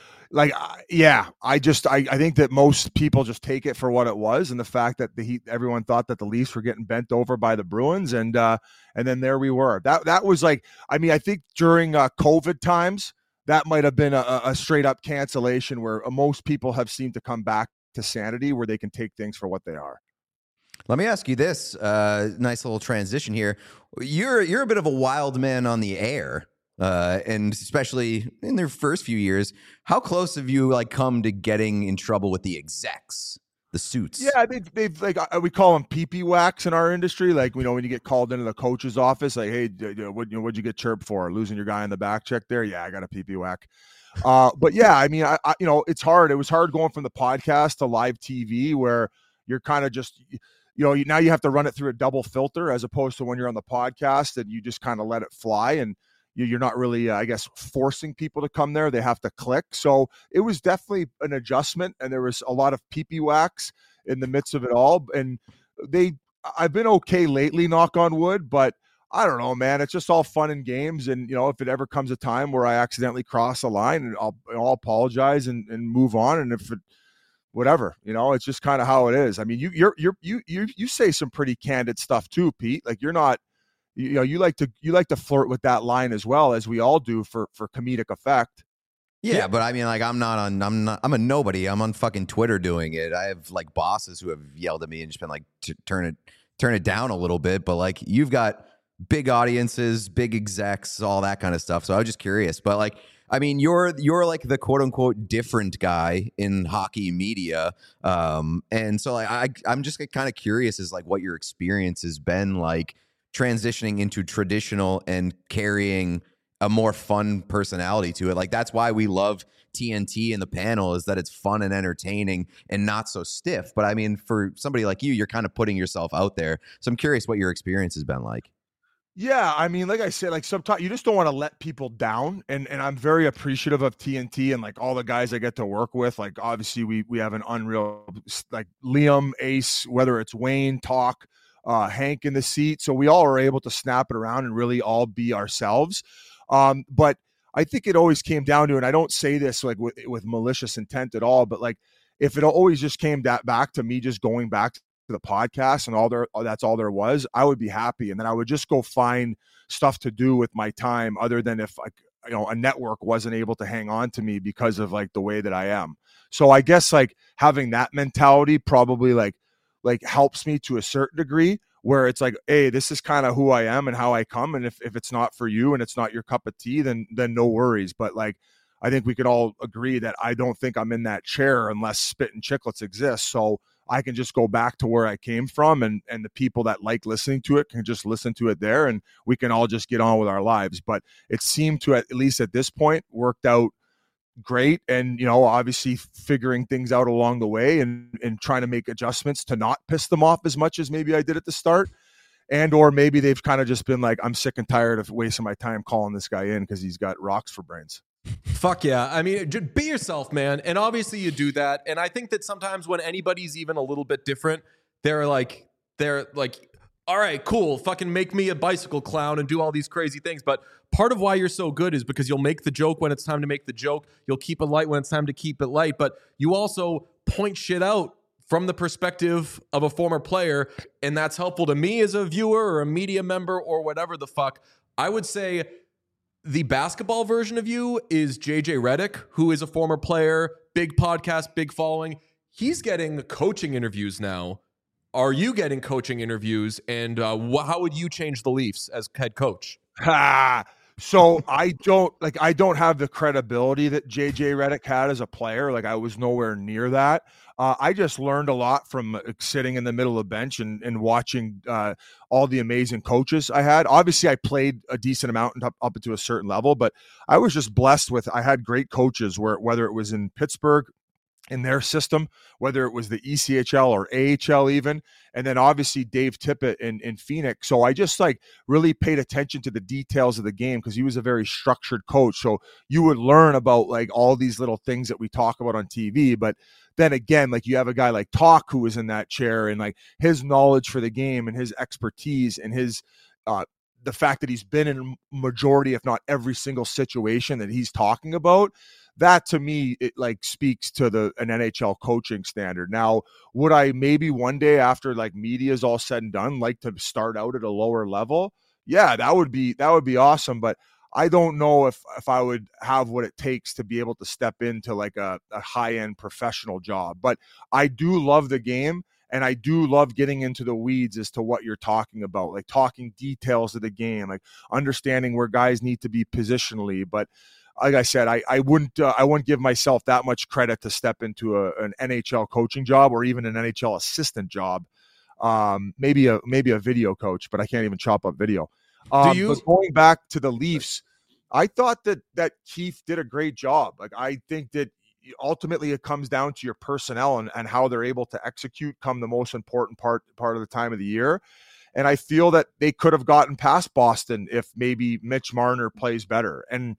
I think that most people just take it for what it was, and the fact that everyone thought that the Leafs were getting bent over by the Bruins, and then there we were. That was like, I mean, I think during COVID times, that might have been a straight up cancellation where most people have seemed to come back to sanity, where they can take things for what they are. Let me ask you this, nice little transition here. You're a bit of a wild man on the air, and especially in their first few years. How close have you like come to getting in trouble with the execs, the suits? Yeah, they've like we call them pee-pee whacks in our industry. Like, you know, when you get called into the coach's office, like, hey, what'd you get chirped for? Losing your guy in the back check there? Yeah, I got a pee-pee whack. But yeah, I mean, I you know, it's hard. It was hard going from the podcast to live TV, where you're kind of just, you know, now you have to run it through a double filter, as opposed to when you're on the podcast and you just kind of let it fly, and you're not really, I guess, forcing people to come there. They have to click. So it was definitely an adjustment, and there was a lot of pee-pee whacks in the midst of it all. And I've been okay lately, knock on wood, but I don't know, man. It's just all fun and games. And, you know, if it ever comes a time where I accidentally cross a line, and I'll apologize and move on. And if it, whatever, you know, it's just kind of how it is. I mean, you say some pretty candid stuff too, Pete. Like, you're not, you know, you like to flirt with that line as well, as we all do for comedic effect. Yeah, but I mean, like, I'm a nobody. I'm on fucking Twitter doing it. I have like bosses who have yelled at me and just been like, turn it down a little bit. But like, you've got big audiences, big execs, all that kind of stuff. So I was just curious. But like, I mean, you're like the quote unquote different guy in hockey media. And so like, I'm just kind of curious as like what your experience has been like transitioning into traditional and carrying a more fun personality to it. Like, that's why we love TNT in the panel, is that it's fun and entertaining and not so stiff. But I mean, for somebody like you're kind of putting yourself out there. So I'm curious what your experience has been like. Yeah, I mean, like I said, like sometimes you just don't want to let people down, and I'm very appreciative of TNT and like all the guys I get to work with. Like, obviously we have an unreal, like, Liam, Ace, whether it's Wayne, Talk, Hank in the seat, so we all are able to snap it around and really all be ourselves. But I think it always came down to, and I don't say this like with malicious intent at all, but like, if it always just came back to me just going back to the podcast and that's all there was, I would be happy. And then I would just go find stuff to do with my time, other than if, like, you know, a network wasn't able to hang on to me because of like the way that I am. So I guess like having that mentality probably like helps me to a certain degree, where it's like, hey, this is kind of who I am and how I come. And if it's not for you and it's not your cup of tea, then no worries. But like, I think we could all agree that I don't think I'm in that chair unless Spit and Chicklets exists. So I can just go back to where I came from, and the people that like listening to it can just listen to it there, and we can all just get on with our lives. But it seemed to, at least at this point, worked out great. And, you know, obviously figuring things out along the way and trying to make adjustments to not piss them off as much as maybe I did at the start. And or maybe they've kind of just been like, I'm sick and tired of wasting my time calling this guy in because he's got rocks for brains. Fuck yeah. I mean, just be yourself, man. And obviously you do that. And I think that sometimes when anybody's even a little bit different, they're like, all right, cool. Fucking make me a bicycle clown and do all these crazy things. But part of why you're so good is because you'll make the joke when it's time to make the joke. You'll keep it light when it's time to keep it light. But you also point shit out from the perspective of a former player, and that's helpful to me as a viewer or a media member or whatever the fuck. I would say the basketball version of you is JJ Redick, who is a former player, big podcast, big following. He's getting coaching interviews now. Are you getting coaching interviews? And how would you change the Leafs as head coach? So I don't have the credibility that JJ Redick had as a player. Like, I was nowhere near that. I just learned a lot from sitting in the middle of the bench and watching all the amazing coaches I had. Obviously, I played a decent amount up to a certain level, but I was just blessed with, I had great coaches whether it was in Pittsburgh, in their system, whether it was the ECHL or AHL even, and then obviously Dave Tippett in Phoenix. So I just really paid attention to the details of the game because he was a very structured coach. So you would learn about all these little things that we talk about on TV. But then again, you have a guy like Talk who was in that chair, and his knowledge for the game and his expertise and his the fact that he's been in a majority, if not every single situation that he's talking about. That to me, it speaks to an NHL coaching standard. Now, would I maybe one day after media is all said and done, like to start out at a lower level? Yeah, that would be awesome. But I don't know if I would have what it takes to be able to step into a high-end professional job. But I do love the game. And I do love getting into the weeds as to what you're talking about, talking details of the game, understanding where guys need to be positionally. But like I said, I wouldn't give myself that much credit to step into an NHL coaching job or even an NHL assistant job. Maybe a video coach, but I can't even chop up video. But going back to the Leafs, I thought that Keefe did a great job. I think that ultimately it comes down to your personnel and how they're able to execute come the most important part of the time of the year. And I feel that they could have gotten past Boston if maybe Mitch Marner plays better. And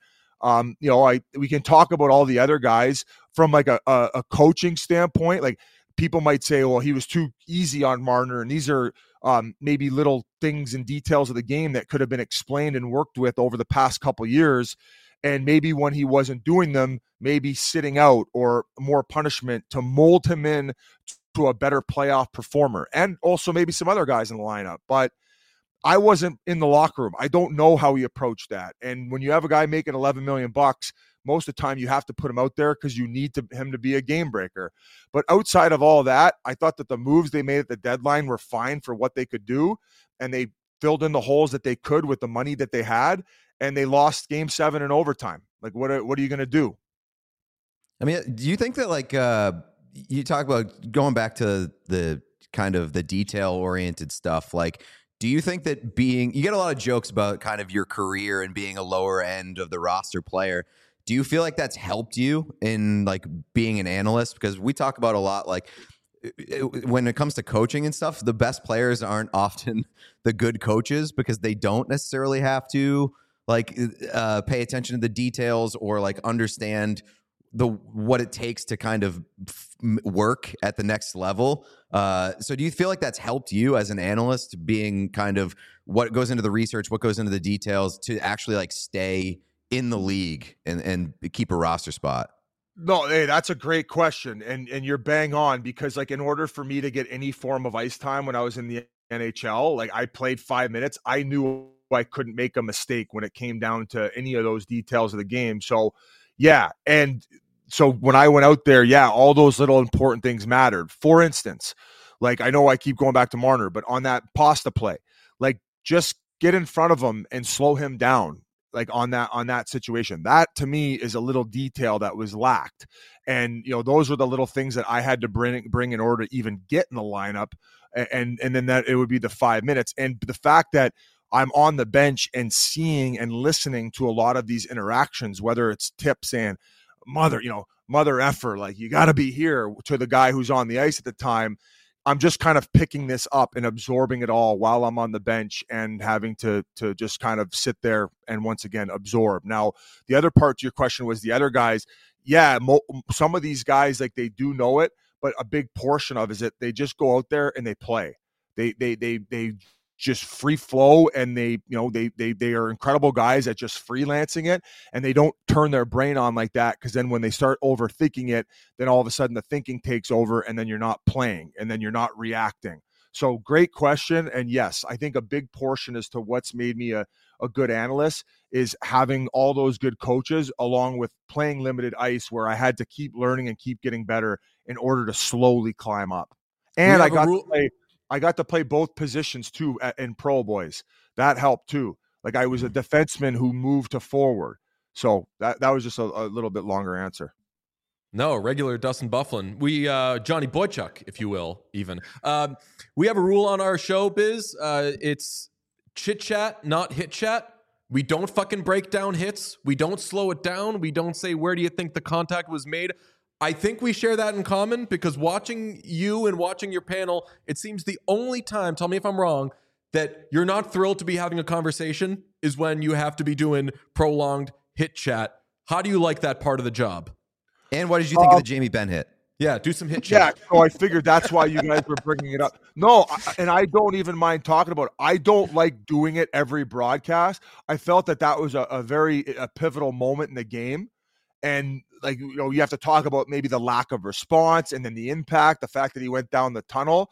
we can talk about all the other guys from a coaching standpoint. People might say, well, he was too easy on Marner, and these are maybe little things and details of the game that could have been explained and worked with over the past couple years. And maybe when he wasn't doing them, maybe sitting out or more punishment to mold him in to a better playoff performer, and also maybe some other guys in the lineup. But I wasn't in the locker room. I don't know how he approached that. And when you have a guy making $11 million, most of the time you have to put him out there because you need him to be a game breaker. But outside of all that, I thought that the moves they made at the deadline were fine for what they could do. And they filled in the holes that they could with the money that they had. And they lost Game 7 in overtime. What are you going to do? I mean, do you think that you talk about going back to the kind of the detail-oriented stuff, do you think that you get a lot of jokes about kind of your career and being a lower end of the roster player. Do you feel like that's helped you in being an analyst? Because we talk about a lot, when it comes to coaching and stuff, the best players aren't often the good coaches because they don't necessarily have to pay attention to the details or understand what it takes to kind of work at the next level. So do you feel like that's helped you as an analyst, being kind of what goes into the research, what goes into the details to actually stay in the league and keep a roster spot? No, hey, that's a great question. And you're bang on because in order for me to get any form of ice time when I was in the NHL, I played 5 minutes. I knew I couldn't make a mistake when it came down to any of those details of the game. So yeah. And so when I went out there, all those little important things mattered. For instance, I know I keep going back to Marner, but on that pasta play, just get in front of him and slow him down. On that situation, that to me is a little detail that was lacked. And, those were the little things that I had to bring in order to even get in the lineup. And then that it would be the 5 minutes. And the fact that I'm on the bench and seeing and listening to a lot of these interactions, whether it's Tip saying, mother effer, you got to be here, to the guy who's on the ice at the time. I'm just kind of picking this up and absorbing it all while I'm on the bench and having to just kind of sit there and once again absorb. Now, the other part to your question was the other guys. Yeah, some of these guys, they do know it, but a big portion of it is that they just go out there and they play. They just free flow, and they are incredible guys at just freelancing it, and they don't turn their brain on like that, because then when they start overthinking it, then all of a sudden the thinking takes over, and then you're not playing, and then you're not reacting. So great question. And yes, I think a big portion as to what's made me a good analyst is having all those good coaches, along with playing limited ice, where I had to keep learning and keep getting better in order to slowly climb up. And I got to play both positions too in Pro Boys. That helped too. Like, I was a defenseman who moved to forward. So that was just a little bit longer answer. No, regular Dustin Byfuglien. We Johnny Boychuk, if you will, even. We have a rule on our show, Biz. It's chit chat, not hit chat. We don't fucking break down hits. We don't slow it down. We don't say, where do you think the contact was made? I think we share that in common, because watching you and watching your panel, it seems the only time, tell me if I'm wrong, that you're not thrilled to be having a conversation is when you have to be doing prolonged hit chat. How do you like that part of the job? And what did you think of the Jamie Benn hit? Yeah, do some hit chat. Yeah, so I figured that's why you guys were bringing it up. No, and I don't even mind talking about it. I don't like doing it every broadcast. I felt that was a very pivotal moment in the game. And, like, you have to talk about maybe the lack of response, and then the impact, the fact that he went down the tunnel.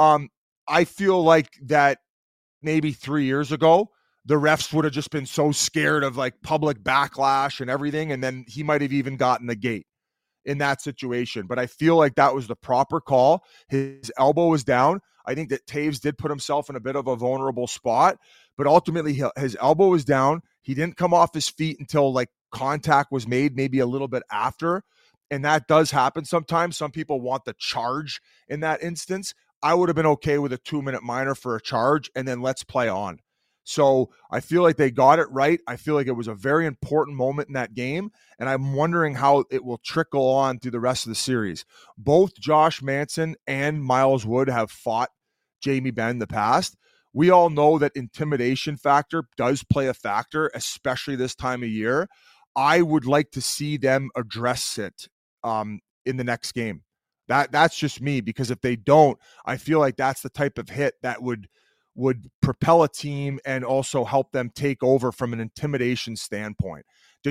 I feel like that maybe 3 years ago, the refs would have just been so scared of, like, public backlash and everything, and then he might have even gotten the gate in that situation. But I feel like that was the proper call. His elbow was down. I think that Taves did put himself in a bit of a vulnerable spot, but ultimately his elbow was down. He didn't come off his feet until, like, contact was made, maybe a little bit after. And that does happen sometimes. Some people want the charge in that instance. I would have been okay with a 2-minute minor for a charge, and then let's play on. So I feel like they got it right. I feel like it was a very important moment in that game, and I'm wondering how it will trickle on through the rest of the series. Both Josh Manson and Miles Wood have fought Jamie Benn in the past. We all know that intimidation factor does play a factor, especially this time of year. I would like to see them address it in the next game. That's just me, because if they don't, I feel like that's the type of hit that would propel a team and also help them take over from an intimidation standpoint.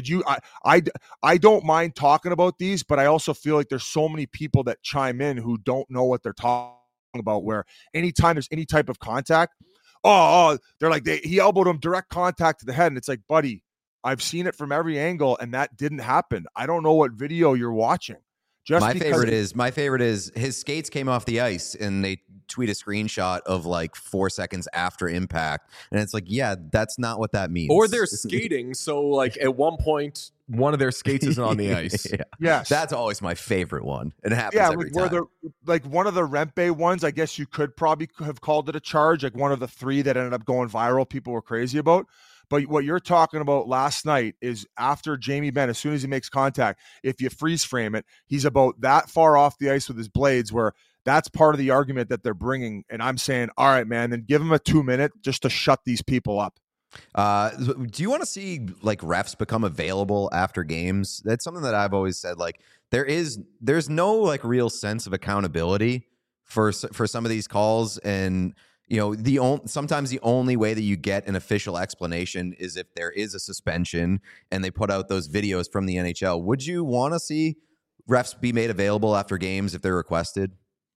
I don't mind talking about these, but I also feel like there's so many people that chime in who don't know what they're talking about, where anytime there's any type of contact, they're like, he elbowed him, direct contact to the head. And it's like, buddy, I've seen it from every angle, and that didn't happen. I don't know what video you're watching. My favorite is his skates came off the ice, and they tweet a screenshot of like 4 seconds after impact, and it's like, yeah, that's not what that means. Or they're skating, so like at one point, one of their skates isn't on the ice. Yeah. Yes, that's always my favorite one. It happens every time. Like one of the Rempe ones, I guess you could probably have called it a charge. Like one of the 3 that ended up going viral, people were crazy about. But what you're talking about last night is after Jamie Benn, as soon as he makes contact, if you freeze frame it, he's about that far off the ice with his blades, where that's part of the argument that they're bringing. And I'm saying, all right, man, then give him a 2-minute just to shut these people up. Do you want to see like refs become available after games? That's something that I've always said. Like there's no like real sense of accountability for some of these calls, and sometimes the only way that you get an official explanation is if there is a suspension and they put out those videos from the NHL. Would you want to see refs be made available after games if they're requested?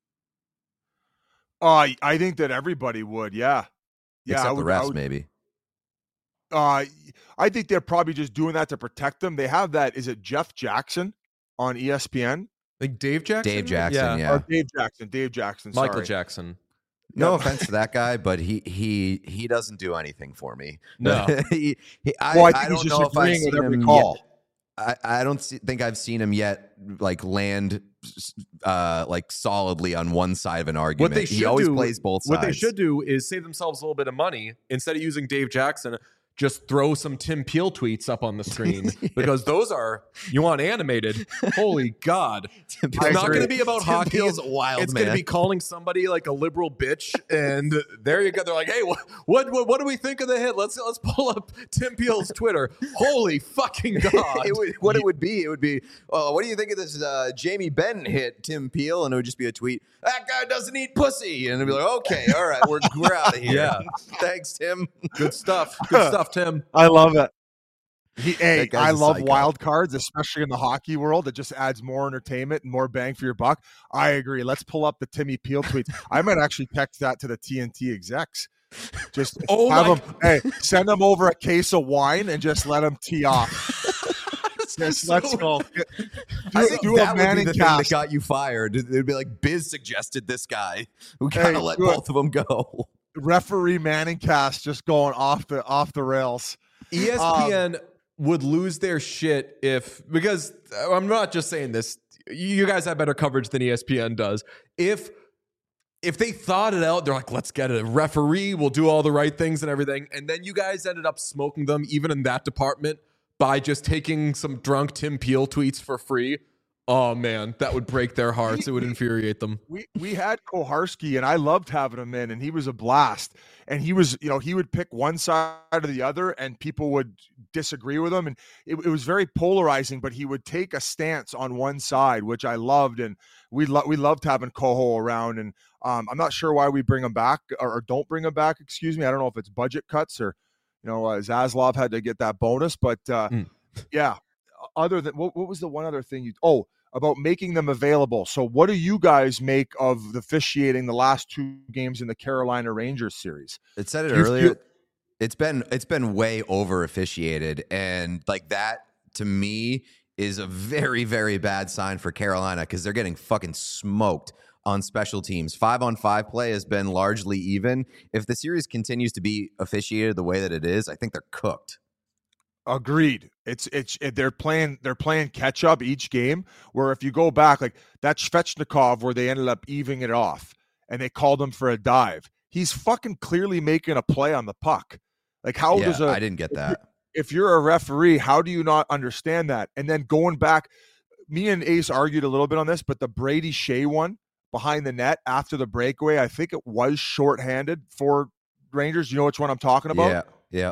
I think that everybody would, yeah. Except the refs, maybe. I think they're probably just doing that to protect them. They have that. Is it Jeff Jackson on ESPN? Like Dave Jackson? Dave Jackson, yeah. Dave Jackson. Michael sorry. Jackson. No offense to that guy, but he doesn't do anything for me. No, I don't know if I've seen him yet. I don't think I've seen him yet like land like solidly on one side of an argument. He always plays both sides. What they should do is save themselves a little bit of money. Instead of using Dave Jackson, just throw some Tim Peel tweets up on the screen, because those are, you want animated. Holy God. It's not going to be about hockey. It's going to be calling somebody like a liberal bitch. And there you go. They're like, hey, what do we think of the hit? Let's pull up Tim Peel's Twitter. Holy fucking God. It would be, what do you think of this Jamie Benn hit, Tim Peel? And it would just be a tweet. that guy doesn't eat pussy. And they'll be like, okay, all right, we're out of here. Yeah. Thanks, Tim. Good stuff. Good stuff, Tim. I love it. That guy's I a love psycho. wild cards, especially in the hockey world. It just adds more entertainment and more bang for your buck. I agree. Let's pull up the Timmy Peel tweets. I might actually text that to the TNT execs. Just have them, send them over a case of wine and just let them tee off. Just let's go. I think Do that a would be Manning the thing that cast. got you fired. It'd be like Biz suggested this guy. We gotta let both of them go. Referee Manning cast just going off the rails. ESPN would lose their shit because I'm not just saying this. You guys have better coverage than ESPN does. If they thought it out, they're like, let's get a referee. We'll do all the right things and everything. And then you guys ended up smoking them, even in that department, by just taking some drunk Tim Peel tweets for free. Oh, man, that would break their hearts. It would infuriate them. We had Koharski, and I loved having him in, and he was a blast. And he was, he would pick one side or the other, and people would disagree with him. And it was very polarizing, but he would take a stance on one side, which I loved. And we loved having Koho around. And I'm not sure why we bring him back or don't bring him back. Excuse me. I don't know if it's budget cuts or, Zaslav had to get that bonus. But yeah, other than what was the one other thing about making them available. So what do you guys make of the officiating the last two games in the Carolina Rangers series? It said it earlier. It's been way over officiated, and like that to me is a very, very bad sign for Carolina because they're getting fucking smoked on special teams. 5-on-5 play has been largely even. If the series continues to be officiated the way that it is, I think they're cooked. Agreed. They're playing catch up each game. Where if you go back, like that Svechnikov, where they ended up evening it off, and they called him for a dive. He's fucking clearly making a play on the puck. Like I didn't get that. If you're a referee, how do you not understand that? And then going back, me and Ace argued a little bit on this, but the Brady Shea one behind the net after the breakaway, I think it was shorthanded for Rangers. You know which one I'm talking about? Yeah.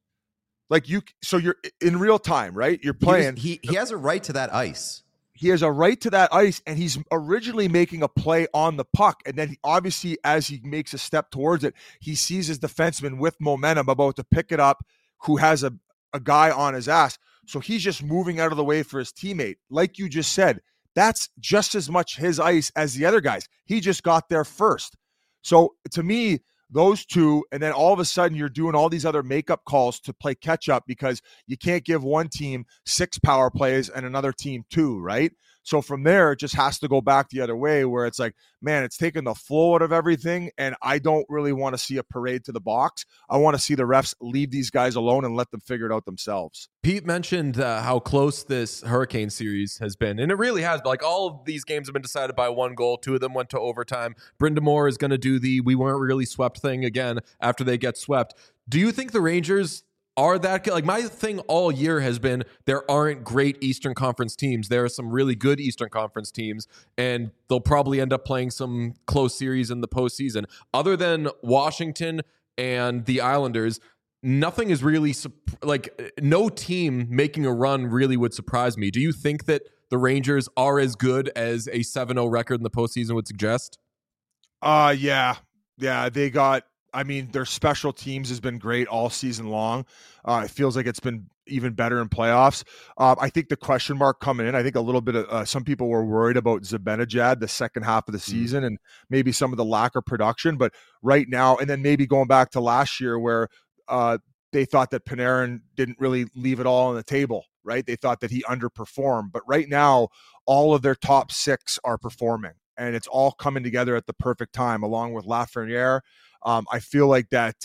Like so you're in real time, right? You're playing. He has a right to that ice. He has a right to that ice, and he's originally making a play on the puck. And then obviously, as he makes a step towards it, he sees his defenseman with momentum about to pick it up, who has a guy on his ass. So he's just moving out of the way for his teammate. Like you just said, that's just as much his ice as the other guys. He just got there first. So to me, those two, and then all of a sudden you're doing all these other makeup calls to play catch up because you can't give one team 6 power plays and another team 2, right? So from there, it just has to go back the other way where it's like, man, it's taking the flow out of everything, and I don't really want to see a parade to the box. I want to see the refs leave these guys alone and let them figure it out themselves. Pete mentioned how close this Hurricane series has been, and it really has. Like, all of these games have been decided by one goal. 2 of them went to overtime. Brind'Amour is going to do the "we weren't really swept" thing again after they get swept. Do you think the Rangers are that good? Like, my thing all year has been there aren't great Eastern Conference teams. There are some really good Eastern Conference teams, and they'll probably end up playing some close series in the postseason. Other than Washington and the Islanders, nothing is really no team making a run really would surprise me. Do you think that the Rangers are as good as a 7-0 record in the postseason would suggest? Yeah, they got. I mean, their special teams has been great all season long. It feels like it's been even better in playoffs. I think the question mark coming in, I think a little bit of some people were worried about Zibanejad the second half of the season and maybe some of the lack of production. But right now, and then maybe going back to last year where they thought that Panarin didn't really leave it all on the table, right? They thought that he underperformed. But right now, all of their top 6 are performing. And it's all coming together at the perfect time, along with Lafreniere. I feel like that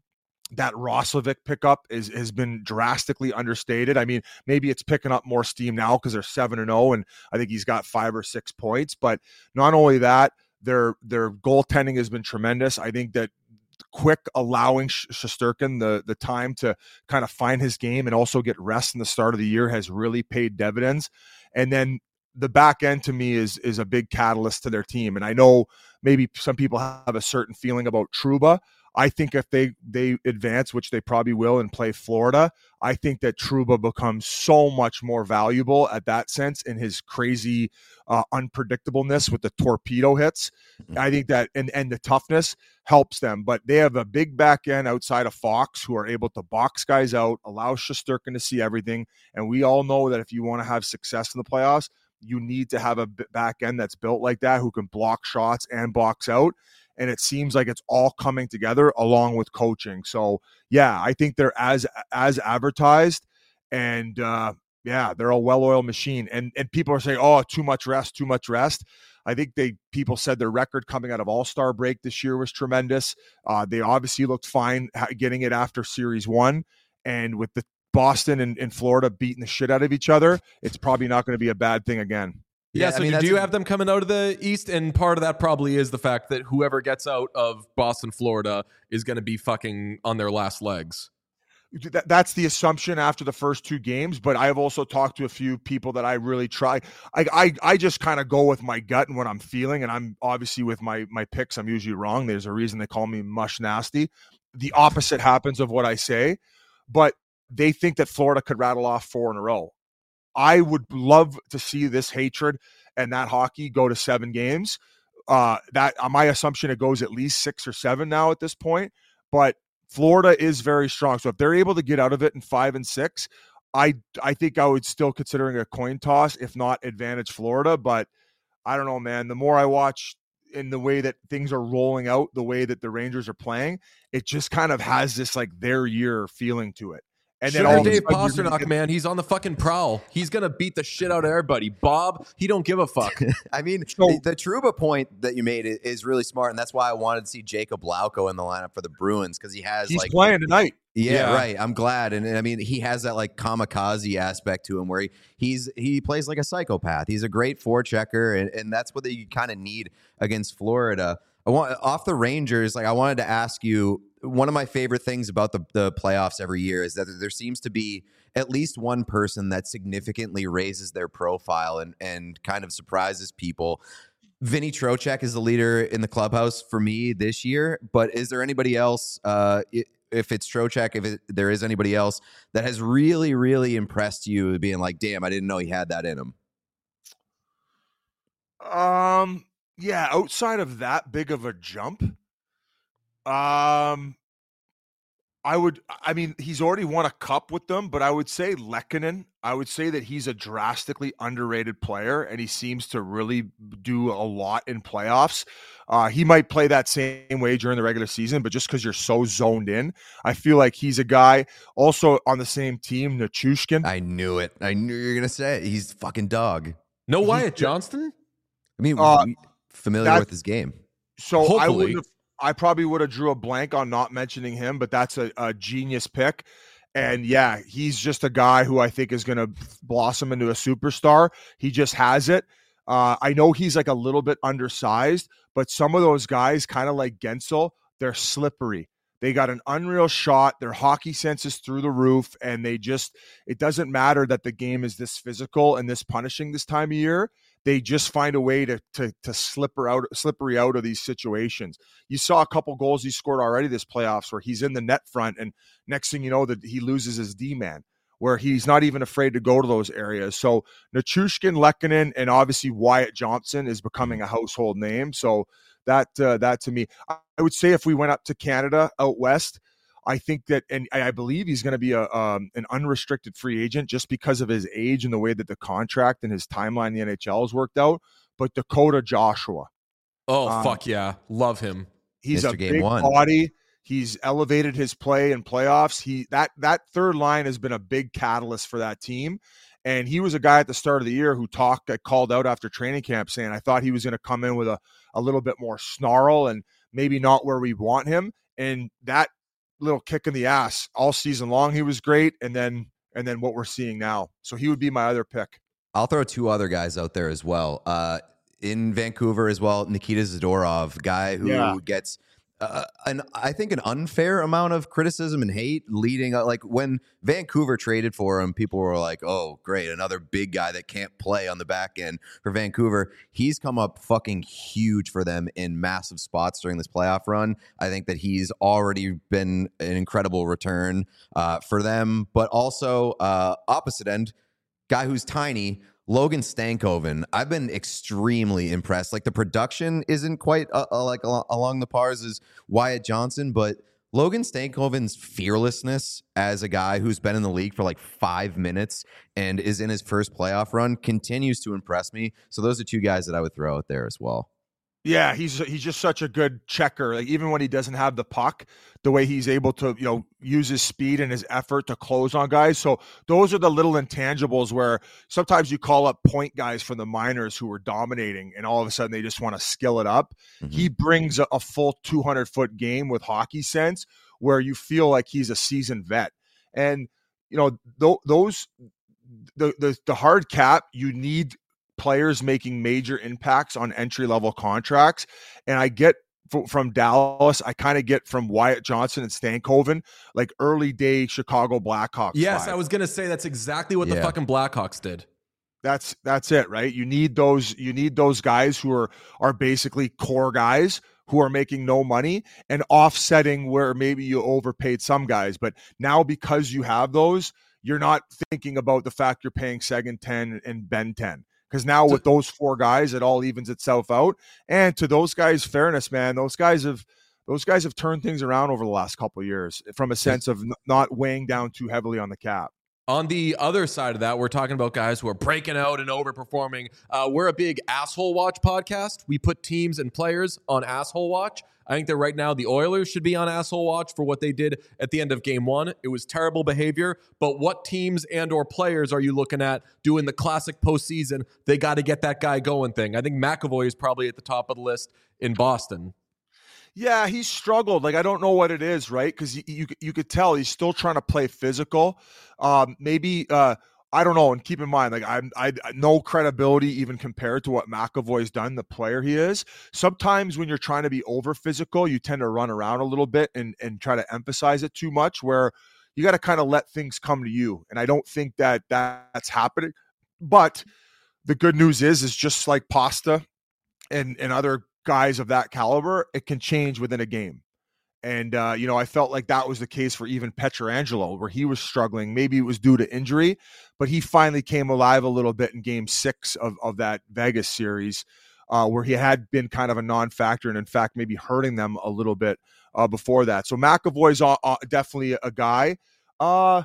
Roslovic pickup has been drastically understated. I mean, maybe it's picking up more steam now because they're 7-0, and I think he's got 5 or 6 points. But not only that, their goaltending has been tremendous. I think that quick allowing Shesterkin the time to kind of find his game and also get rest in the start of the year has really paid dividends. And then the back end to me is a big catalyst to their team. And I know maybe some people have a certain feeling about Trouba. I think if they advance, which they probably will, and play Florida, I think that Trouba becomes so much more valuable at that sense in his crazy unpredictableness with the torpedo hits. I think that and the toughness helps them. But they have a big back end outside of Fox who are able to box guys out, allow Shesterkin to see everything. And we all know that if you want to have success in the playoffs, you need to have a back end that's built like that who can block shots and box out. And it seems like it's all coming together along with coaching. So, yeah, I think they're as advertised. And, they're a well-oiled machine. And people are saying, oh, too much rest. I think people said their record coming out of All-Star break this year was tremendous. They obviously looked fine getting it after Series 1. And with the Boston and Florida beating the shit out of each other, it's probably not going to be a bad thing again. Yeah, so do you have them coming out of the East? And part of that probably is the fact that whoever gets out of Boston, Florida is going to be fucking on their last legs. That's the assumption after the first 2 games, but I have also talked to a few people that I really try. I just kind of go with my gut and what I'm feeling, and I'm obviously with my picks, I'm usually wrong. There's a reason they call me Mush Nasty. The opposite happens of what I say, but they think that Florida could rattle off 4 in a row. I would love to see this hatred and that hockey go to 7 games. That my assumption, it goes at least 6 or 7 now at this point. But Florida is very strong, so if they're able to get out of it in 5 and 6, I think I would still considering a coin toss, if not advantage Florida. But I don't know, man. The more I watch in the way that things are rolling out, the way that the Rangers are playing, it just kind of has this like their year feeling to it. And then all Dave Pastrnak, man, he's on the fucking prowl. He's going to beat the shit out of everybody. Bob, he don't give a fuck. I mean, the Trouba point that you made is really smart, and that's why I wanted to see Jacob Lauko in the lineup for the Bruins, because he's playing tonight. Yeah, right. I'm glad. And I mean, he has that like kamikaze aspect to him where he plays like a psychopath. He's a great forechecker, and that's what you kind of need against Florida. Off the Rangers, I wanted to ask you, one of my favorite things about the playoffs every year is that there seems to be at least one person that significantly raises their profile and kind of surprises people. Vinny Trocheck is the leader in the clubhouse for me this year, but is there anybody else, if it's Trocheck, there is anybody else that has really, really impressed you being like, damn, I didn't know he had that in him? Yeah, outside of that big of a jump, he's already won a cup with them, but I would say Lehkonen. I would say that he's a drastically underrated player, and he seems to really do a lot in playoffs. He might play that same way during the regular season, but just because you're so zoned in, I feel like he's a guy. Also on the same team, Nichushkin. I knew it. I knew you were going to say it. He's fucking dog. No Wyatt Johnston? I mean, familiar with his game. So hopefully. I probably would have drew a blank on not mentioning him, but that's a genius pick. And yeah, he's just a guy who I think is going to blossom into a superstar. He just has it. I know he's like a little bit undersized, but some of those guys, kind of like Gensel, they're slippery. They got an unreal shot. Their hockey sense is through the roof, and it doesn't matter that the game is this physical and this punishing this time of year. They just find a way to slippery out of these situations. You saw a couple goals he scored already this playoffs where he's in the net front, and next thing you know, that he loses his D-man, where he's not even afraid to go to those areas. So Nichushkin, Lehkonen, and obviously Wyatt Johnston is becoming a household name. So that to me, I would say if we went up to Canada out west, I think that, and I believe he's going to be an unrestricted free agent just because of his age and the way that the contract and his timeline in the NHL has worked out. But Dakota Joshua. Oh, fuck yeah. Love him. He's Mr. a Game big One. body. He's elevated his play in playoffs. That third line has been a big catalyst for that team. And he was a guy at the start of the year who got called out after training camp saying, I thought he was going to come in with a little bit more snarl and maybe not where we want him. And that little kick in the ass all season long, he was great. And then what we're seeing now. So he would be my other pick. I'll throw 2 other guys out there as well. In Vancouver as well, Nikita Zadorov, guy who gets I think an unfair amount of criticism and hate leading up. Like when Vancouver traded for him, people were like, "Oh, great, another big guy that can't play on the back end for Vancouver." He's come up fucking huge for them in massive spots during this playoff run. I think that he's already been an incredible return for them, but also opposite end, guy who's tiny. Logan Stankoven, I've been extremely impressed. Like the production isn't quite along the pars as Wyatt Johnson, but Logan Stankoven's fearlessness as a guy who's been in the league for like 5 minutes and is in his first playoff run continues to impress me. So those are two guys that I would throw out there as well. Yeah, he's just such a good checker. Like even when he doesn't have the puck, the way he's able to, use his speed and his effort to close on guys. So those are the little intangibles where sometimes you call up point guys from the minors who are dominating and all of a sudden they just want to skill it up. Mm-hmm. He brings a full 200-foot game with hockey sense where you feel like he's a seasoned vet. And those the hard cap, you need players making major impacts on entry-level contracts. And I get from Dallas, I kind of get from Wyatt Johnson and Stankoven, like early day Chicago Blackhawks. Yes, vibe. I was going to say that's exactly what the fucking Blackhawks did. That's it, right? You need those guys who are basically core guys who are making no money and offsetting where maybe you overpaid some guys. But now because you have those, you're not thinking about the fact you're paying Seguin 10 and Ben 10. Because now with those four guys, it all evens itself out. And to those guys' fairness, man, those guys have turned things around over the last couple of years from a sense of not weighing down too heavily on the cap. On the other side of that, we're talking about guys who are breaking out and overperforming. We're a big Asshole Watch podcast. We put teams and players on Asshole Watch. I think that right now the Oilers should be on Asshole Watch for what they did at the end of Game 1. It was terrible behavior, but what teams and or players are you looking at doing the classic postseason, they got to get that guy going thing? I think McAvoy is probably at the top of the list in Boston. Yeah, he's struggled. Like, I don't know what it is, right? Because you could tell he's still trying to play physical. I don't know. And keep in mind, like I no credibility even compared to what McAvoy's done, the player he is. Sometimes when you're trying to be over physical, you tend to run around a little bit and try to emphasize it too much, where you got to kind of let things come to you. And I don't think that's happening. But the good news is just like Pasta and other guys of that caliber, it can change within a game. And, I felt like that was the case for even Pietrangelo, where he was struggling. Maybe it was due to injury, but he finally came alive a little bit in Game 6 of that Vegas series, where he had been kind of a non-factor and, in fact, maybe hurting them a little bit before that. So McAvoy's definitely a guy. Other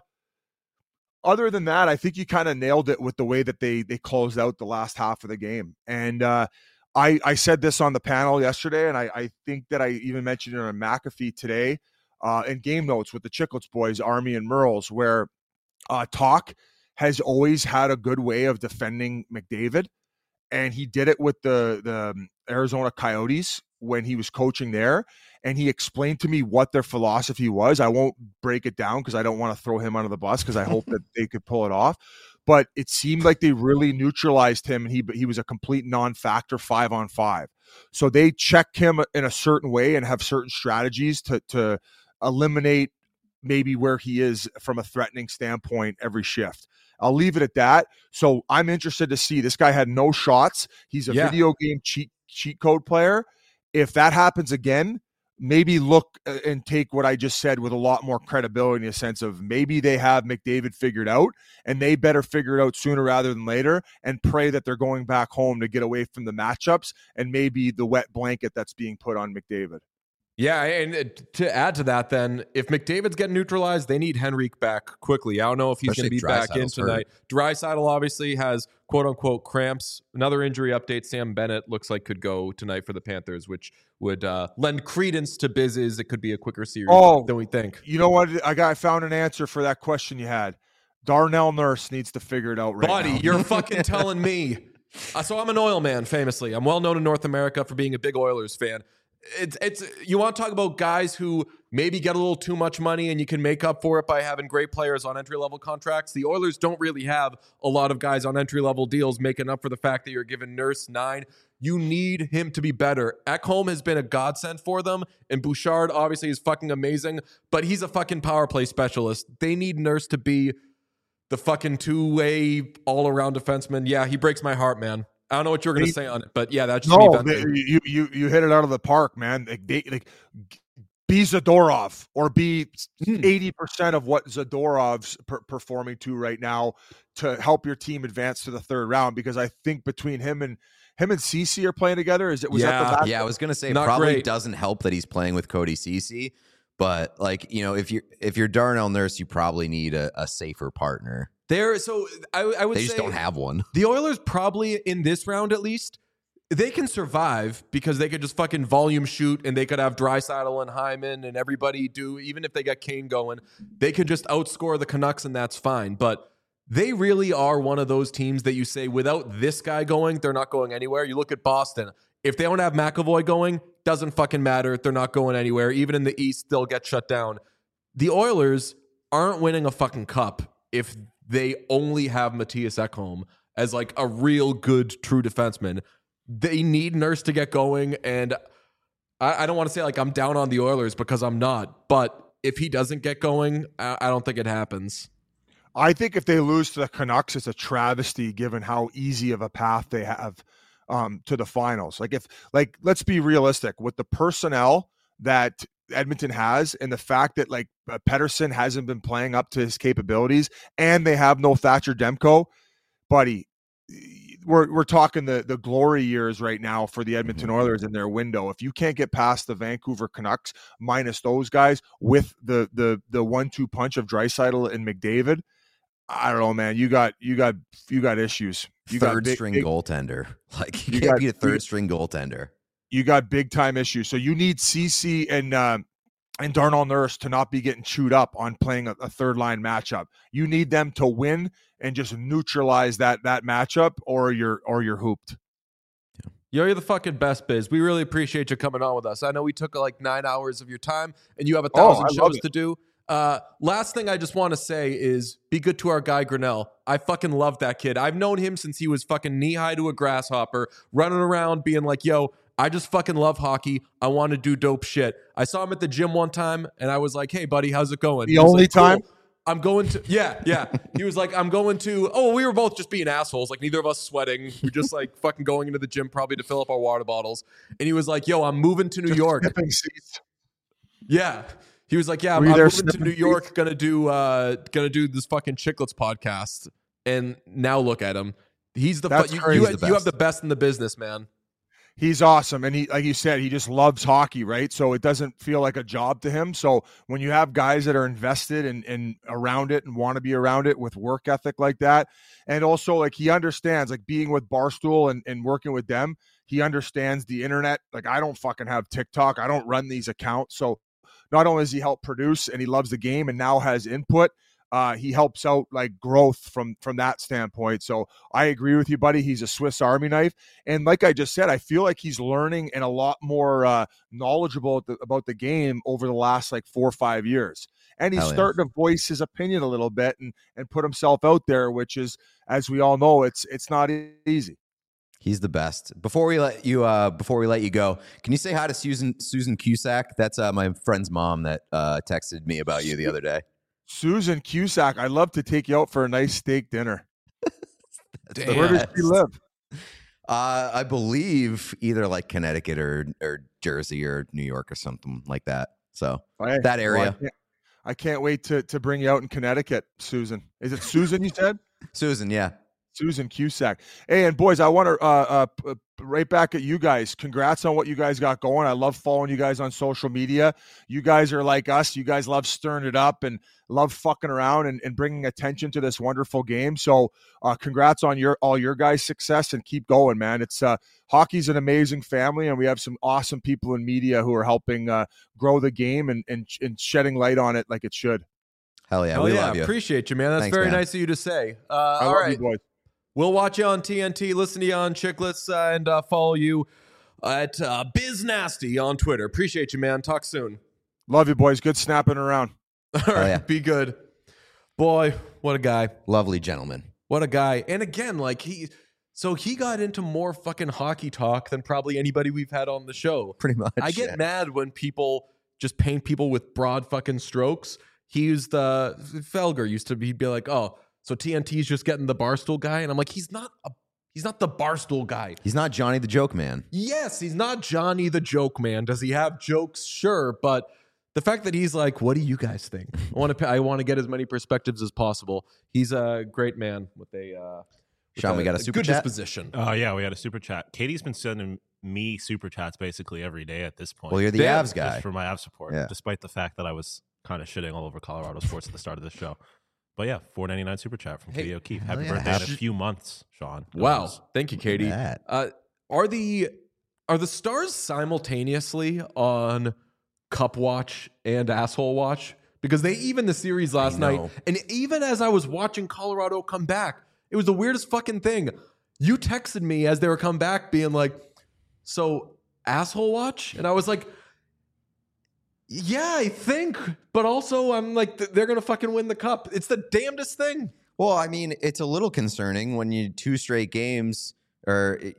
than that, I think you kind of nailed it with the way that they closed out the last half of the game. And I said this on the panel yesterday, and I think that I even mentioned it on McAfee today in game notes with the Chicklets boys, Army and Merles, where Talk has always had a good way of defending McDavid, and he did it with the Arizona Coyotes when he was coaching there, and he explained to me what their philosophy was. I won't break it down because I don't want to throw him under the bus because I hope that they could pull it off. But it seemed like they really neutralized him, and he was a complete non-factor 5-on-5. So they check him in a certain way and have certain strategies to eliminate maybe where he is from a threatening standpoint every shift. I'll leave it at that. So I'm interested to see. This guy had no shots. He's a video game cheat code player. If that happens again, maybe look and take what I just said with a lot more credibility in a sense of maybe they have McDavid figured out, and they better figure it out sooner rather than later and pray that they're going back home to get away from the matchups and maybe the wet blanket that's being put on McDavid. Yeah, and to add to that then, if McDavid's getting neutralized, they need Henrique back quickly. I don't know if he's going to be back in tonight. Draisaitl obviously has quote-unquote cramps. Another injury update, Sam Bennett looks like could go tonight for the Panthers, which would lend credence to Biz's. It could be a quicker series than we think. You know what? I found an answer for that question you had. Darnell Nurse needs to figure it out right now. Buddy, you're fucking telling me. So I'm an Oil man, famously. I'm well known in North America for being a big Oilers fan. it's you want to talk about guys who maybe get a little too much money and you can make up for it by having great players on entry-level contracts. The Oilers don't really have a lot of guys on entry-level deals making up for the fact that you're giving Nurse 9. You need him to be better. Ekholm has been a godsend for them, and Bouchard obviously is fucking amazing, but he's a fucking power play specialist. They need Nurse to be the fucking two-way all-around defenseman. Yeah, he breaks my heart, man. I don't know what you were going to say on it, but yeah, that's just me venting. You hit it out of the park, man. Be Zadorov or be 80% of what Zadorov's performing to right now to help your team advance to the third round. Because I think between him and Ceci are playing together. That the back? Yeah, I was gonna say Not probably great. doesn't help that he's playing with Cody Ceci, but like if you're Darnell Nurse, you probably need a safer partner. I would They say just don't have one. the Oilers probably in this round at least, they can survive because they could just fucking volume shoot and they could have Draisaitl and Hyman and everybody do, even if they get Kane going, they could just outscore the Canucks and that's fine. But they really are one of those teams that you say without this guy going, they're not going anywhere. You look at Boston. If they don't have McAvoy going, doesn't fucking matter. They're not going anywhere. Even in the East, they'll get shut down. The Oilers aren't winning a fucking cup if they only have Mattias Ekholm as like a real good true defenseman. They need Nurse to get going, and I don't want to say like I'm down on the Oilers because I'm not, but if he doesn't get going, I don't think it happens. I think if they lose to the Canucks, it's a travesty given how easy of a path they have to the finals. Let's be realistic with the personnel that Edmonton has and the fact that like Pettersson hasn't been playing up to his capabilities and they have no Thatcher Demko, buddy. We're talking the glory years right now for the Edmonton Oilers in their window. If you can't get past the Vancouver Canucks minus those guys with the 1-2 punch of Draisaitl and McDavid, I don't know, man. You got issues. You got third string goaltender. Like you can't be a third string goaltender. You got big time issues. So you need Ceci and Darnell Nurse to not be getting chewed up on playing a third line matchup. You need them to win and just neutralize that matchup, or you're hooped. Yo, you're the fucking best, Biz. We really appreciate you coming on with us. I know we took like 9 hours of your time, and you have 1,000 shows to do. Last thing I just want to say is be good to our guy Grinnell. I fucking love that kid. I've known him since he was fucking knee-high to a grasshopper, running around being like, yo, I just fucking love hockey. I want to do dope shit. I saw him at the gym one time, and I was like, hey, buddy, how's it going? The only time? Cool. I'm going to, yeah. He was like, I'm going to, we were both just being assholes. Like, neither of us sweating. We're just like fucking going into the gym probably to fill up our water bottles. And he was like, yo, I'm moving to New York. Yeah. He was like, yeah, I'm moving to New York, gonna do this fucking Chicklets podcast. And now look at him. He's the you have the best in the business, man. He's awesome. And he, like you said, he just loves hockey, right? So it doesn't feel like a job to him. So when you have guys that are invested and around it and want to be around it with work ethic like that, and also like he understands, like being with Barstool and working with them, he understands the internet. Like I don't fucking have TikTok. I don't run these accounts. So not only does he help produce and he loves the game and now has input, he helps out like growth from that standpoint. So I agree with you, buddy. He's a Swiss Army knife. And like I just said, I feel like he's learning and a lot more knowledgeable about the game over the last like 4 or 5 years. And he's starting to voice his opinion a little bit and put himself out there, which is, as we all know, it's not easy. He's the best. Before we let you go, can you say hi to Susan Cusack? That's my friend's mom that texted me about you the other day. Susan Cusack, I'd love to take you out for a nice steak dinner. Damn. Where does she live? I believe either like Connecticut or Jersey or New York or something like that. So that area. Well, I can't wait to bring you out in Connecticut, Susan. Is it Susan you said? Susan, yeah. Susan Cusack. Hey, and boys, I want to right back at you guys. Congrats on what you guys got going. I love following you guys on social media. You guys are like us. You guys love stirring it up and love fucking around and bringing attention to this wonderful game. So congrats on all your guys' success and keep going, man. It's hockey's an amazing family, and we have some awesome people in media who are helping grow the game and shedding light on it like it should. Hell yeah, we love you. Appreciate you, man. That's Thanks, very man. nice of you to say. I all love right. you, boys. We'll watch you on TNT, listen to you on Chicklets, and follow you at Biz Nasty on Twitter. Appreciate you, man. Talk soon. Love you, boys. Good snapping around. All right, yeah. be good. Boy, what a guy. Lovely gentleman. What a guy. And again, like he got into more fucking hockey talk than probably anybody we've had on the show. Pretty much. I get yeah. mad when people just paint people with broad fucking strokes. Felger used to he'd be like, oh, so TNT's just getting the Barstool guy. And I'm like, he's not the Barstool guy. He's not Johnny the Joke Man. Yes, he's not Johnny the Joke Man. Does he have jokes? Sure. But the fact that he's like, what do you guys think? I want to get as many perspectives as possible. He's a great man with Sean, we got a super good chat? disposition. Oh, yeah, we had a super chat. Katie's been sending me super chats basically every day at this point. Well, you're the Damn, Avs guy. Just for my Avs support, Yeah. despite the fact that I was kind of shitting all over Colorado sports at the start of the show. But yeah, $4.99 super chat from Katie O'Keefe. Happy yeah. birthday in a few months, Sean. Wow. Thank you, Katie. that. Are the Stars simultaneously on Cup Watch and Asshole Watch? Because they even the series last night, and even as I was watching Colorado come back, it was the weirdest fucking thing. You texted me as they were come back being like, so Asshole Watch? And I was like, yeah, I think. But also I'm like, they're going to fucking win the cup. It's the damnedest thing. Well, I mean, it's a little concerning when you two straight games, you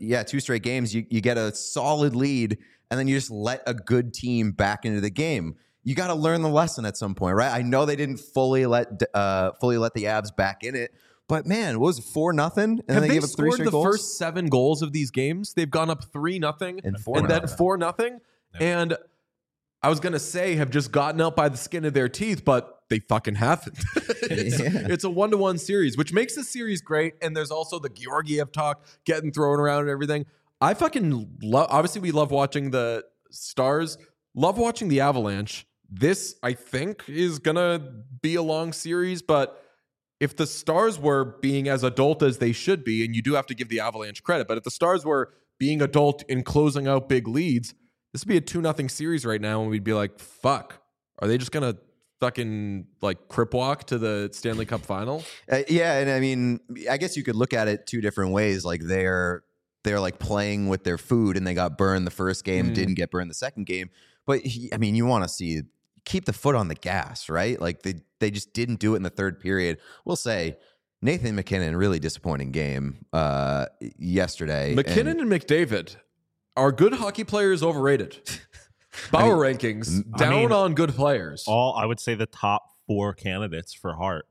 get a solid lead, and then you just let a good team back into the game. You got to learn the lesson at some point, right? I know they didn't fully let the Avs back in it, but man, what was it, 4-0? And Have they they gave up 3 scored straight the goals? first 7 goals of these games? They've gone up 3-0 And 4-0. and then 4-0. And I was gonna say have just gotten out by the skin of their teeth, but they fucking haven't. It's a 1-1 series, which makes this series great. And there's also the Georgiev talk getting thrown around and everything. I fucking love. Obviously, we love watching the Stars. Love watching the Avalanche. This, I think, is gonna be a long series, but if the Stars were being as adult as they should be, and you do have to give the Avalanche credit, but if the Stars were being adult in closing out big leads, this would be a 2-0 series right now, and we'd be like, fuck, are they just going to fucking like crip walk to the Stanley Cup final? Yeah, and I mean, I guess you could look at it 2 different ways. Like they're like playing with their food, and they got burned the first game, didn't get burned the second game. But I mean, you want to see keep the foot on the gas, right? Like they just didn't do it in the third period. We'll say Nathan MacKinnon, really disappointing game yesterday. McKinnon and McDavid are good hockey players overrated. Bauer rankings down on good players. I would say the top 4 candidates for Hart.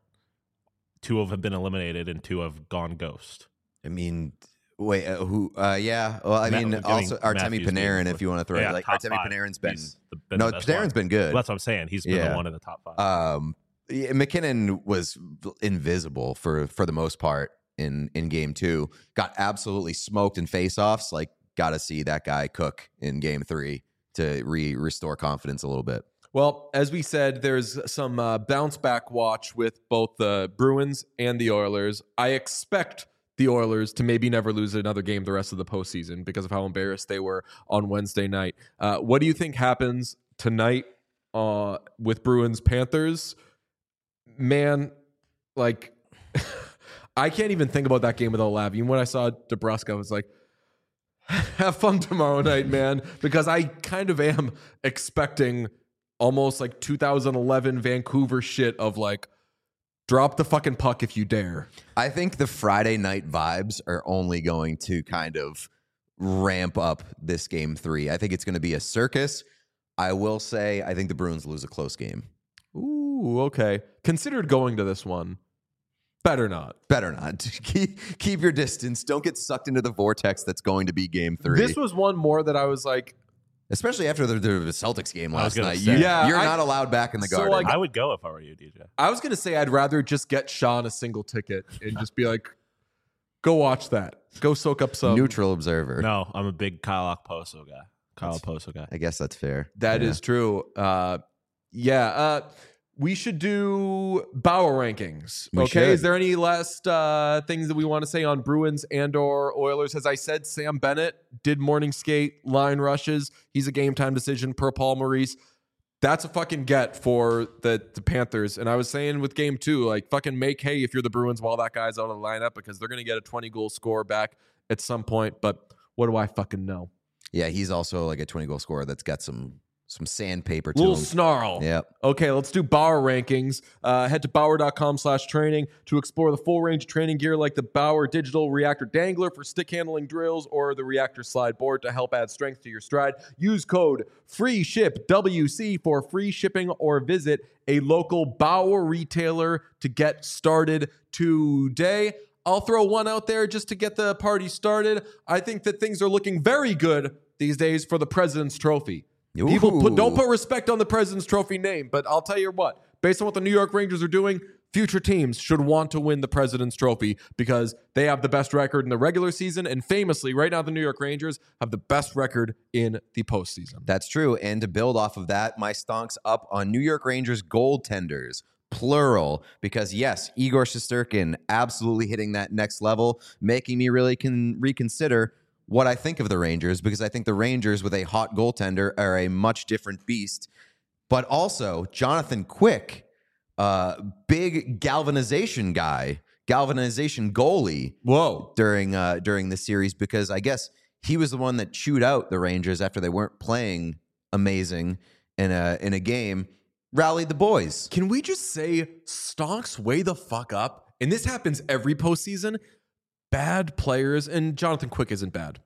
2 have been eliminated and 2 have gone ghost. I mean, wait, who? Yeah. Well, I mean, also Artemi Panarin, if you want to throw it. Like Artemi Panarin's been Panarin's been good. Well, that's what I'm saying. He's been the one in the top 5. McKinnon was invisible for the most part in game 2. Got absolutely smoked in faceoffs. Like, got to see that guy cook in game 3 to restore confidence a little bit. Well, as we said, there's some bounce back watch with both the Bruins and the Oilers. I expect the Oilers to maybe never lose another game the rest of the postseason because of how embarrassed they were on Wednesday night. What do you think happens tonight with Bruins Panthers? Man, like, I can't even think about that game without laughing. Even when I saw DeBrusk, I was like, have fun tomorrow night, man, because I kind of am expecting almost like 2011 Vancouver shit of like, drop the fucking puck if you dare. I think the Friday night vibes are only going to kind of ramp up this game 3. I think it's going to be a circus. I will say, I think the Bruins lose a close game. Ooh, okay. Considered going to this one. Better not. Better not. Keep your distance. Don't get sucked into the vortex that's going to be game 3. This was one more that I was like, especially after the Celtics game last night. Say. You're not allowed back in the Garden. Like, I would go if I were you, DJ. I was going to say I'd rather just get Sean a single ticket and just be like, go watch that. Go soak up some. Neutral observer. No, I'm a big Kyle Okposo guy. I guess that's fair. That is true. We should do Bauer rankings. We okay. should. Is there any last things that we want to say on Bruins and or Oilers? As I said, Sam Bennett did morning skate, line rushes. He's a game time decision per Paul Maurice. That's a fucking get for the Panthers. And I was saying with game 2, like fucking make hay if you're the Bruins while that guy's out of the lineup because they're going to get a 20-goal score back at some point. But what do I fucking know? Yeah, he's also like a 20-goal scorer that's got some sandpaper to Little him. snarl. Yep. Okay, let's do Bauer rankings. Head to Bauer.com/training to explore the full range of training gear like the Bauer Digital Reactor Dangler for stick handling drills or the Reactor Slide Board to help add strength to your stride. Use code FREESHIPWC for free shipping or visit a local Bauer retailer to get started today. I'll throw one out there just to get the party started. I think that things are looking very good these days for the President's Trophy. People don't put respect on the President's Trophy name, but I'll tell you what, based on what the New York Rangers are doing, future teams should want to win the President's Trophy because they have the best record in the regular season, and famously, right now, the New York Rangers have the best record in the postseason. That's true. And to build off of that, my stonk's up on New York Rangers goaltenders, plural, because yes, Igor Shesterkin absolutely hitting that next level, making me really reconsider what I think of the Rangers, because I think the Rangers with a hot goaltender are a much different beast. But also, Jonathan Quick, big galvanization goalie. Whoa. During the series, because I guess he was the one that chewed out the Rangers after they weren't playing amazing in a game, rallied the boys. Can we just say stonks way the fuck up? And this happens every postseason. Bad players, and Jonathan Quick isn't bad.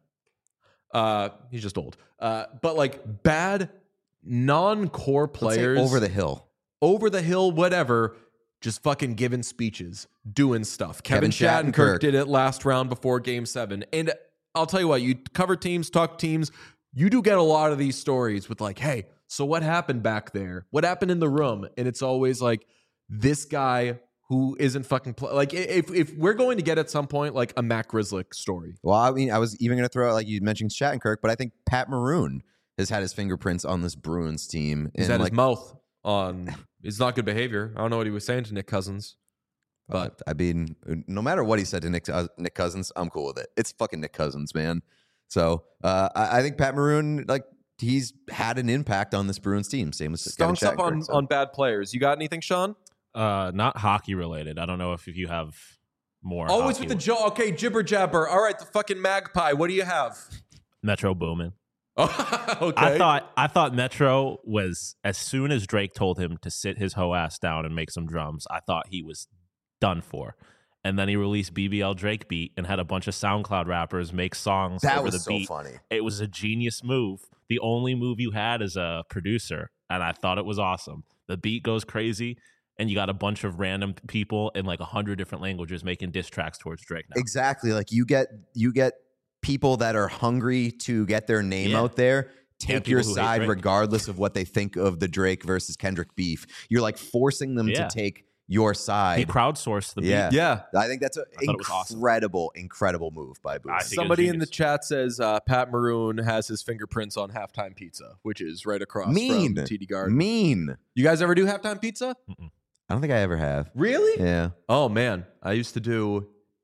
He's just old. But like bad non-core players, over the hill, whatever, just fucking giving speeches, doing stuff. Kevin Shattenkirk did it last round before Game 7. And I'll tell you what, you cover teams, talk teams, you do get a lot of these stories with like, hey, so what happened back there? What happened in the room? And it's always like this guy who isn't fucking like if we're going to get at some point like a Matt Grzelcyk story. Well, I mean, I was even going to throw out, like you mentioned Shattenkirk, but I think Pat Maroon has had his fingerprints on this Bruins team. He's had his mouth on. It's not good behavior. I don't know what he was saying to Nick Cousins, but I mean, no matter what he said to Nick Cousins, I'm cool with it. It's fucking Nick Cousins, man. So I think Pat Maroon, like, he's had an impact on this Bruins team. Same as Kevin Stonks up on bad players. You got anything, Sean? Not hockey related. I don't know if you have more. Always with the jaw. Okay, jibber jabber. All right, the fucking magpie. What do you have? Metro Boomin. Okay. I thought Metro was, as soon as Drake told him to sit his hoe ass down and make some drums, I thought he was done for. And then he released BBL Drake beat and had a bunch of SoundCloud rappers make songs over the beat. Funny. It was a genius move. The only move you had as a producer, and I thought it was awesome. The beat goes crazy, and you got a bunch of random people in like 100 different languages making diss tracks towards Drake now. Exactly. Like you get people that are hungry to get their name out there, take your side regardless of what they think of the Drake versus Kendrick beef. You're like forcing them to take your side. He crowdsourced the beat. Yeah. I think that's an incredible move by Booth. Somebody in the chat says Pat Maroon has his fingerprints on Halftime Pizza, which is right across from TD Garden. Mean. You guys ever do Halftime Pizza? Mm-mm. I don't think I ever have. Really? Yeah. Oh man, I used to do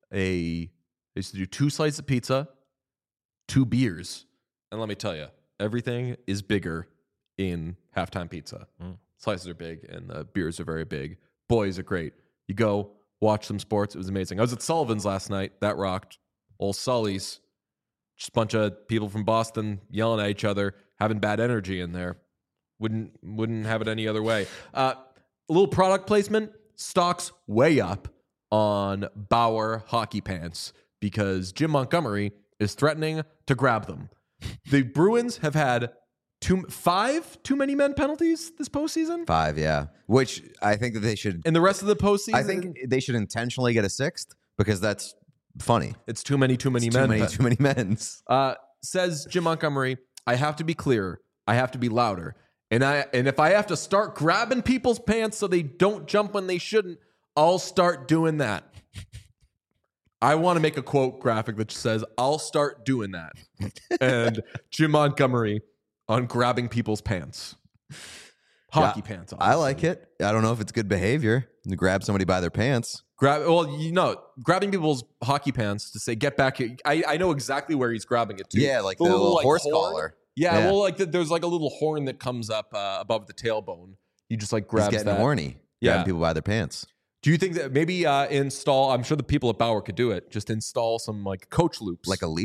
2 slices of pizza, 2 beers, and let me tell you, everything is bigger in Halftime Pizza. Slices are big, and the beers are very big. Boys are great. You go watch some sports. It was amazing. I was at Sullivan's last night. That rocked. Old Sully's. Just a bunch of people from Boston yelling at each other, having bad energy in there. Wouldn't have it any other way. A little product placement. Stocks way up on Bauer hockey pants because Jim Montgomery is threatening to grab them. The Bruins have had 5 too many men penalties this postseason. 5, yeah. Which I think that they should. And the rest of the postseason, I think they should intentionally get a 6th because that's funny. It's too many men. Too many men's. Says Jim Montgomery, I have to be clearer. I have to be louder. And if I have to start grabbing people's pants so they don't jump when they shouldn't, I'll start doing that. I want to make a quote graphic that says, I'll start doing that. And Jim Montgomery on grabbing people's pants. Hockey pants. Obviously. I like it. I don't know if it's good behavior to grab somebody by their pants. Grabbing people's hockey pants to say, get back here. I know exactly where he's grabbing it to. Yeah, like the little horse collar. Yeah, well, like there's like a little horn that comes up above the tailbone. You just like grab that. He's getting horny. Grabbing people by their pants. Do you think that maybe install, I'm sure the people at Bauer could do it, just install some like coach loops. Like a leash?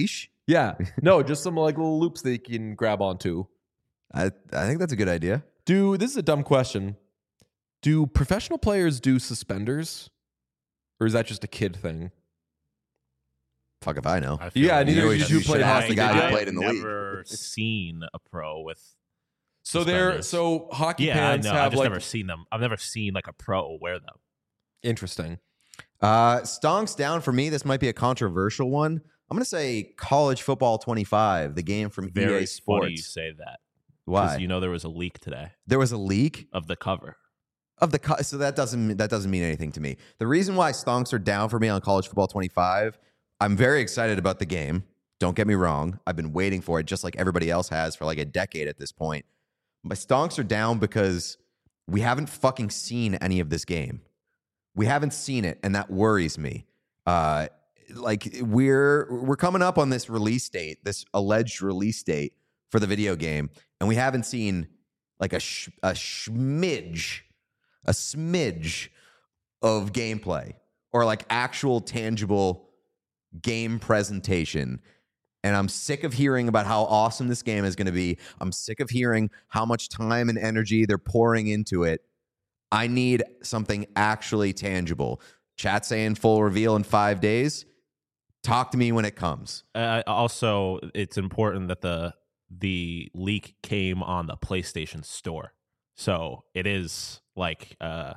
Yeah. No, just some like little loops that you can grab onto. I think that's a good idea. This is a dumb question. Do professional players do suspenders? Or is that just a kid thing? Fuck if I know. I feel Yeah, like neither You did know, you play should ask hockey. the guy did who you? played in the I've league. never seen a pro with. So suspenders. hockey Yeah, I pants know. I've have just like never seen them. I've never seen like a pro wear them. interesting. Stonks down for me. This might be a controversial one. I'm going to say College Football 25, the game from Very EA funny you Sports. say that. Why? You know there was a leak today There was a leak of the cover. of the so that doesn't mean anything to me. The reason why Stonks are down for me on College Football 25, I'm very excited about the game. Don't get me wrong. I've been waiting for it just like everybody else has for like a decade at this point. My Stonks are down because we haven't fucking seen any of this game. We haven't seen it, and that worries me. Like we're coming up on this release date, this alleged release date for the video game, and we haven't seen like a smidge of gameplay or like actual tangible game presentation. And I'm sick of hearing about how awesome this game is going to be. I'm sick of hearing how much time and energy they're pouring into it. I need something actually tangible. Chat saying full reveal in 5 days. Talk to me when it comes. Also, it's important that the leak came on the PlayStation Store, so it is like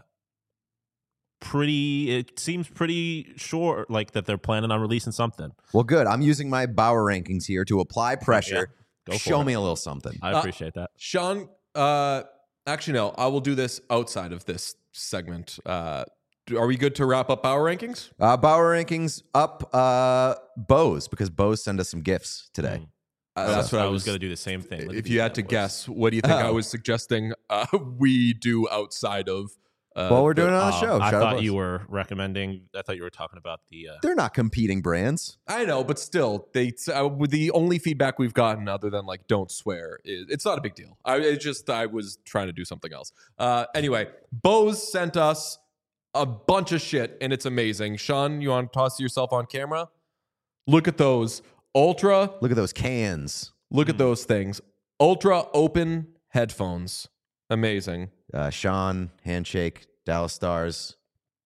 pretty. It seems pretty sure, like that they're planning on releasing something. Well, good. I'm using my Bauer rankings here to apply pressure. Go for Show it. me a little something. I appreciate that. Sean, actually, no, I will do this outside of this segment. Are we good to wrap up our rankings? Bauer rankings up Bose, because Bose sent us some gifts today. That's what I was going to do the same thing. If you had to guess, what do you think I was suggesting we do outside of? Well, we're doing it on the show. I Shout out thought Bose. you were recommending. I thought you were talking about the. They're not competing brands. I know, but still, the only feedback we've gotten, other than like "don't swear," is it's not a big deal. I was trying to do something else. Anyway, Bose sent us a bunch of shit, and it's amazing. Sean, you want to toss yourself on camera? Look at those ultra. Look at those cans. Look at those things. Ultra open headphones. Amazing. Sean, handshake, Dallas Stars.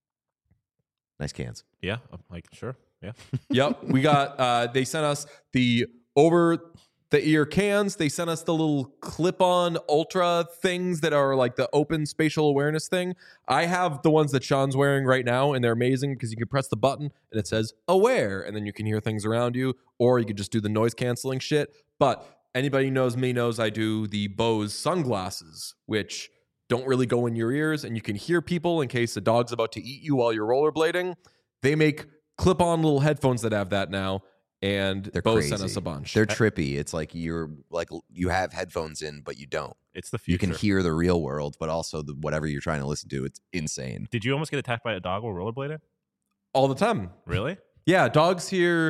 Nice cans. Yeah, I'm like sure. Yeah. Yep. We got they sent us the over the ear cans. They sent us the little clip-on ultra things that are like the open spatial awareness thing. I have the ones that Sean's wearing right now, and they're amazing because you can press the button and it says aware, and then you can hear things around you, or you could just do the noise canceling shit. But anybody who knows me knows I do the Bose sunglasses, which don't really go in your ears, and you can hear people in case the dog's about to eat you while you're rollerblading. They make clip-on little headphones that have that now, and They're Bose crazy. sent us a bunch. They're trippy. It's like you have headphones in, but you don't. It's the future. You can hear the real world, but also whatever you're trying to listen to. It's insane. Did you almost get attacked by a dog while rollerblading? all the time. Really? Yeah, dogs hear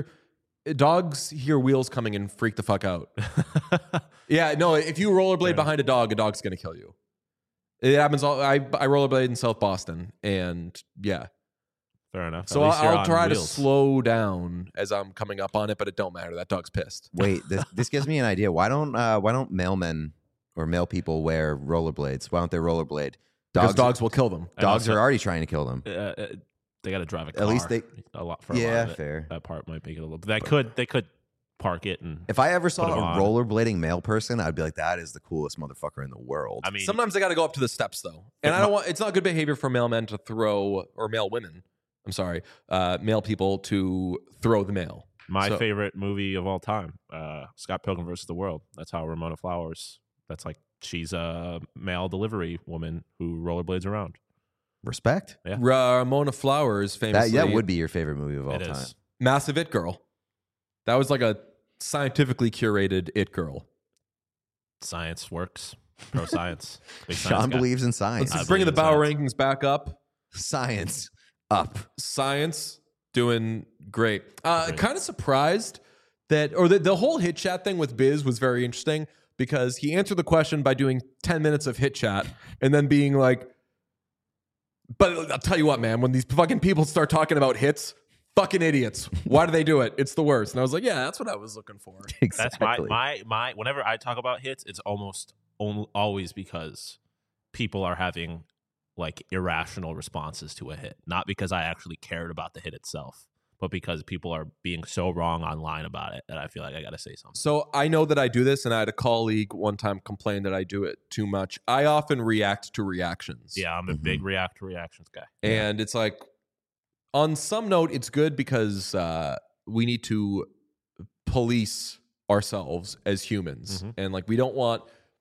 wheels coming and freak the fuck out. Yeah, no, if you rollerblade behind a dog's gonna kill you. It happens all I rollerblade in South Boston, and yeah. Fair enough. So At least you're I'll on try to wheels. slow down as I'm coming up on it, but it don't matter. That dog's pissed. Wait, this gives me an idea. Why don't mailmen or mail people wear rollerblades? Why don't they rollerblade? Because dogs will kill them. And Dogs also- are already trying to kill them. They got to drive a car. At least they- a lot for a lot Yeah, of it. fair. That part might make it a little. They could park it and. If I ever saw Put 'em a on. rollerblading male person, I'd be like, that is the coolest motherfucker in the world. I mean, Sometimes they got to go up to the steps though, and I don't want. It's not good behavior for male men to throw, or male women. I'm sorry, male people to throw the mail. my so- favorite movie of all time, Scott Pilgrim versus the World. That's how Ramona Flowers. That's like she's a mail delivery woman who rollerblades around. Respect. Yeah. Ramona Flowers, famously, That would be your favorite movie of all It time. is. massive it girl. That was like a scientifically curated it girl. Science works. Pro science. Big Sean science guy. believes in science. Let's I bring the believe in Bauer science. rankings back up. Science up. Science doing great. Kind of surprised that, or the whole hit chat thing with Biz was very interesting because he answered the question by doing 10 minutes of hit chat and then being like, but I'll tell you what, man, when these fucking people start talking about hits, fucking idiots. Why do they do it? It's the worst. And I was like, yeah, that's what I was looking for. That's my whenever I talk about hits, it's almost always because people are having like irrational responses to a hit, not because I actually cared about the hit itself, but because people are being so wrong online about it that I feel like I got to say something. So I know that I do this, and I had a colleague one time complain that I do it too much. I often react to reactions. Yeah, I'm a big react to reactions guy. And it's like, on some note, it's good because we need to police ourselves as humans. And like, we don't want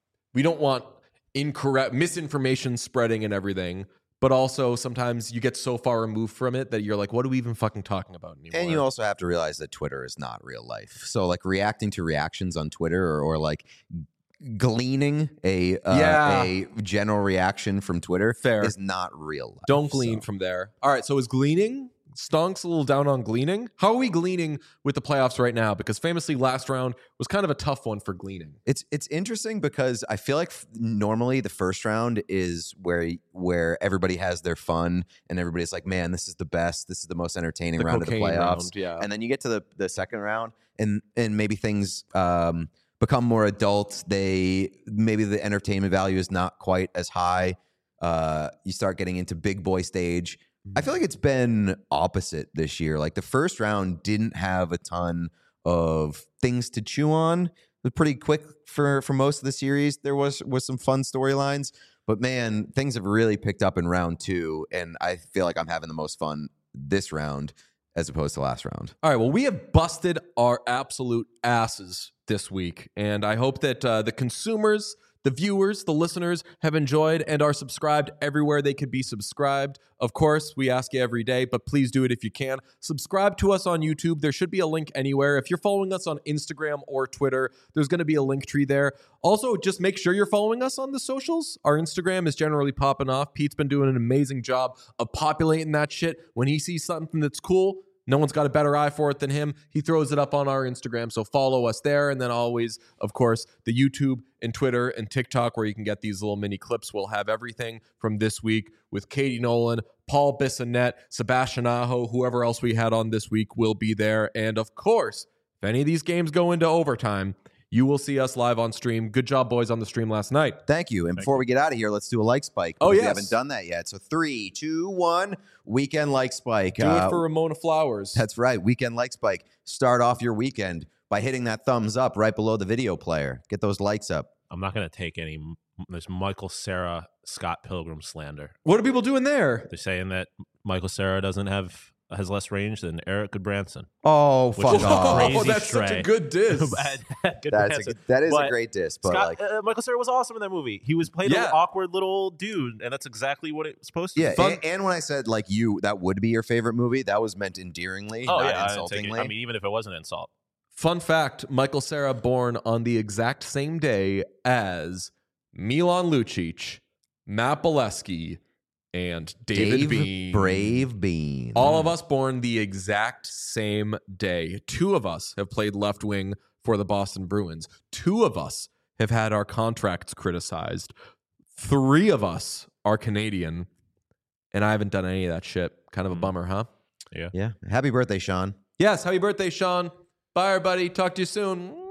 incorrect misinformation spreading and everything. But also sometimes you get so far removed from it that you're like, what are we even fucking talking about anymore? And you also have to realize that Twitter is not real life. So like reacting to reactions on Twitter or like gleaning a general reaction from Twitter is not real life. Don't glean from there. All right, so is gleaning? Stonk's a little down on gleaning. How are we gleaning with the playoffs right now? Because famously last round was kind of a tough one for gleaning. It's interesting because I feel like normally the first round is where everybody has their fun and everybody's like, man, this is the best. This is the most entertaining round of the playoffs. Round, And then you get to the second round and maybe things become more adult. Maybe the entertainment value is not quite as high. You start getting into big boy stage. I feel like it's been opposite this year. Like the first round didn't have a ton of things to chew on. It was pretty quick for most of the series. There was some fun storylines, but man, things have really picked up in round 2, and I feel like I'm having the most fun this round as opposed to last round. All right, well, we have busted our absolute asses this week, and I hope that the consumers, the viewers, the listeners have enjoyed and are subscribed everywhere they could be subscribed. Of course, we ask you every day, but please do it if you can. Subscribe to us on YouTube. There should be a link anywhere. If you're following us on Instagram or Twitter, there's going to be a link tree there. Also, just make sure you're following us on the socials. Our Instagram is generally popping off. Pete's been doing an amazing job of populating that shit. When he sees something that's cool, no one's got a better eye for it than him. He throws it up on our Instagram, so follow us there. And then always, of course, the YouTube and Twitter and TikTok where you can get these little mini clips. We'll have everything from this week with Katie Nolan, Paul Bissonnette, Sebastian Aho, whoever else we had on this week will be there. And of course, if any of these games go into overtime, you will see us live on stream. Good job, boys, on the stream last night. Thank you. And before we get out of here, let's do a like spike. Oh, yes. We haven't done that yet. So 3, 2, 1, weekend like spike. Do it for Ramona Flowers. That's right. Weekend like spike. Start off your weekend by hitting that thumbs up right below the video player. Get those likes up. I'm not going to take any this Michael Cera, Scott Pilgrim slander. What are people doing there? They're saying that Michael Cera has less range than Eric Goodbranson. Oh, fuck off. Crazy Oh, that's such a stray. good diss. That is a great diss. But Scott, like, Michael Cera was awesome in that movie. He was playing an awkward little dude, and that's exactly what it was supposed to be. Yeah, and when I said like that would be your favorite movie, that was meant endearingly, not insultingly. I mean, even if it wasn't an insult. Fun fact, Michael Cera born on the exact same day as Milan Lucic, Matt Bolesky, and David Bean. Brave Bean. All of us born the exact same day. 2 of us have played left wing for the Boston Bruins. 2 of us have had our contracts criticized. 3 of us are Canadian, and I haven't done any of that shit. Kind of a bummer, huh? Yeah. Yeah. Happy birthday, Sean. Yes, happy birthday, Sean. Bye, everybody. Talk to you soon.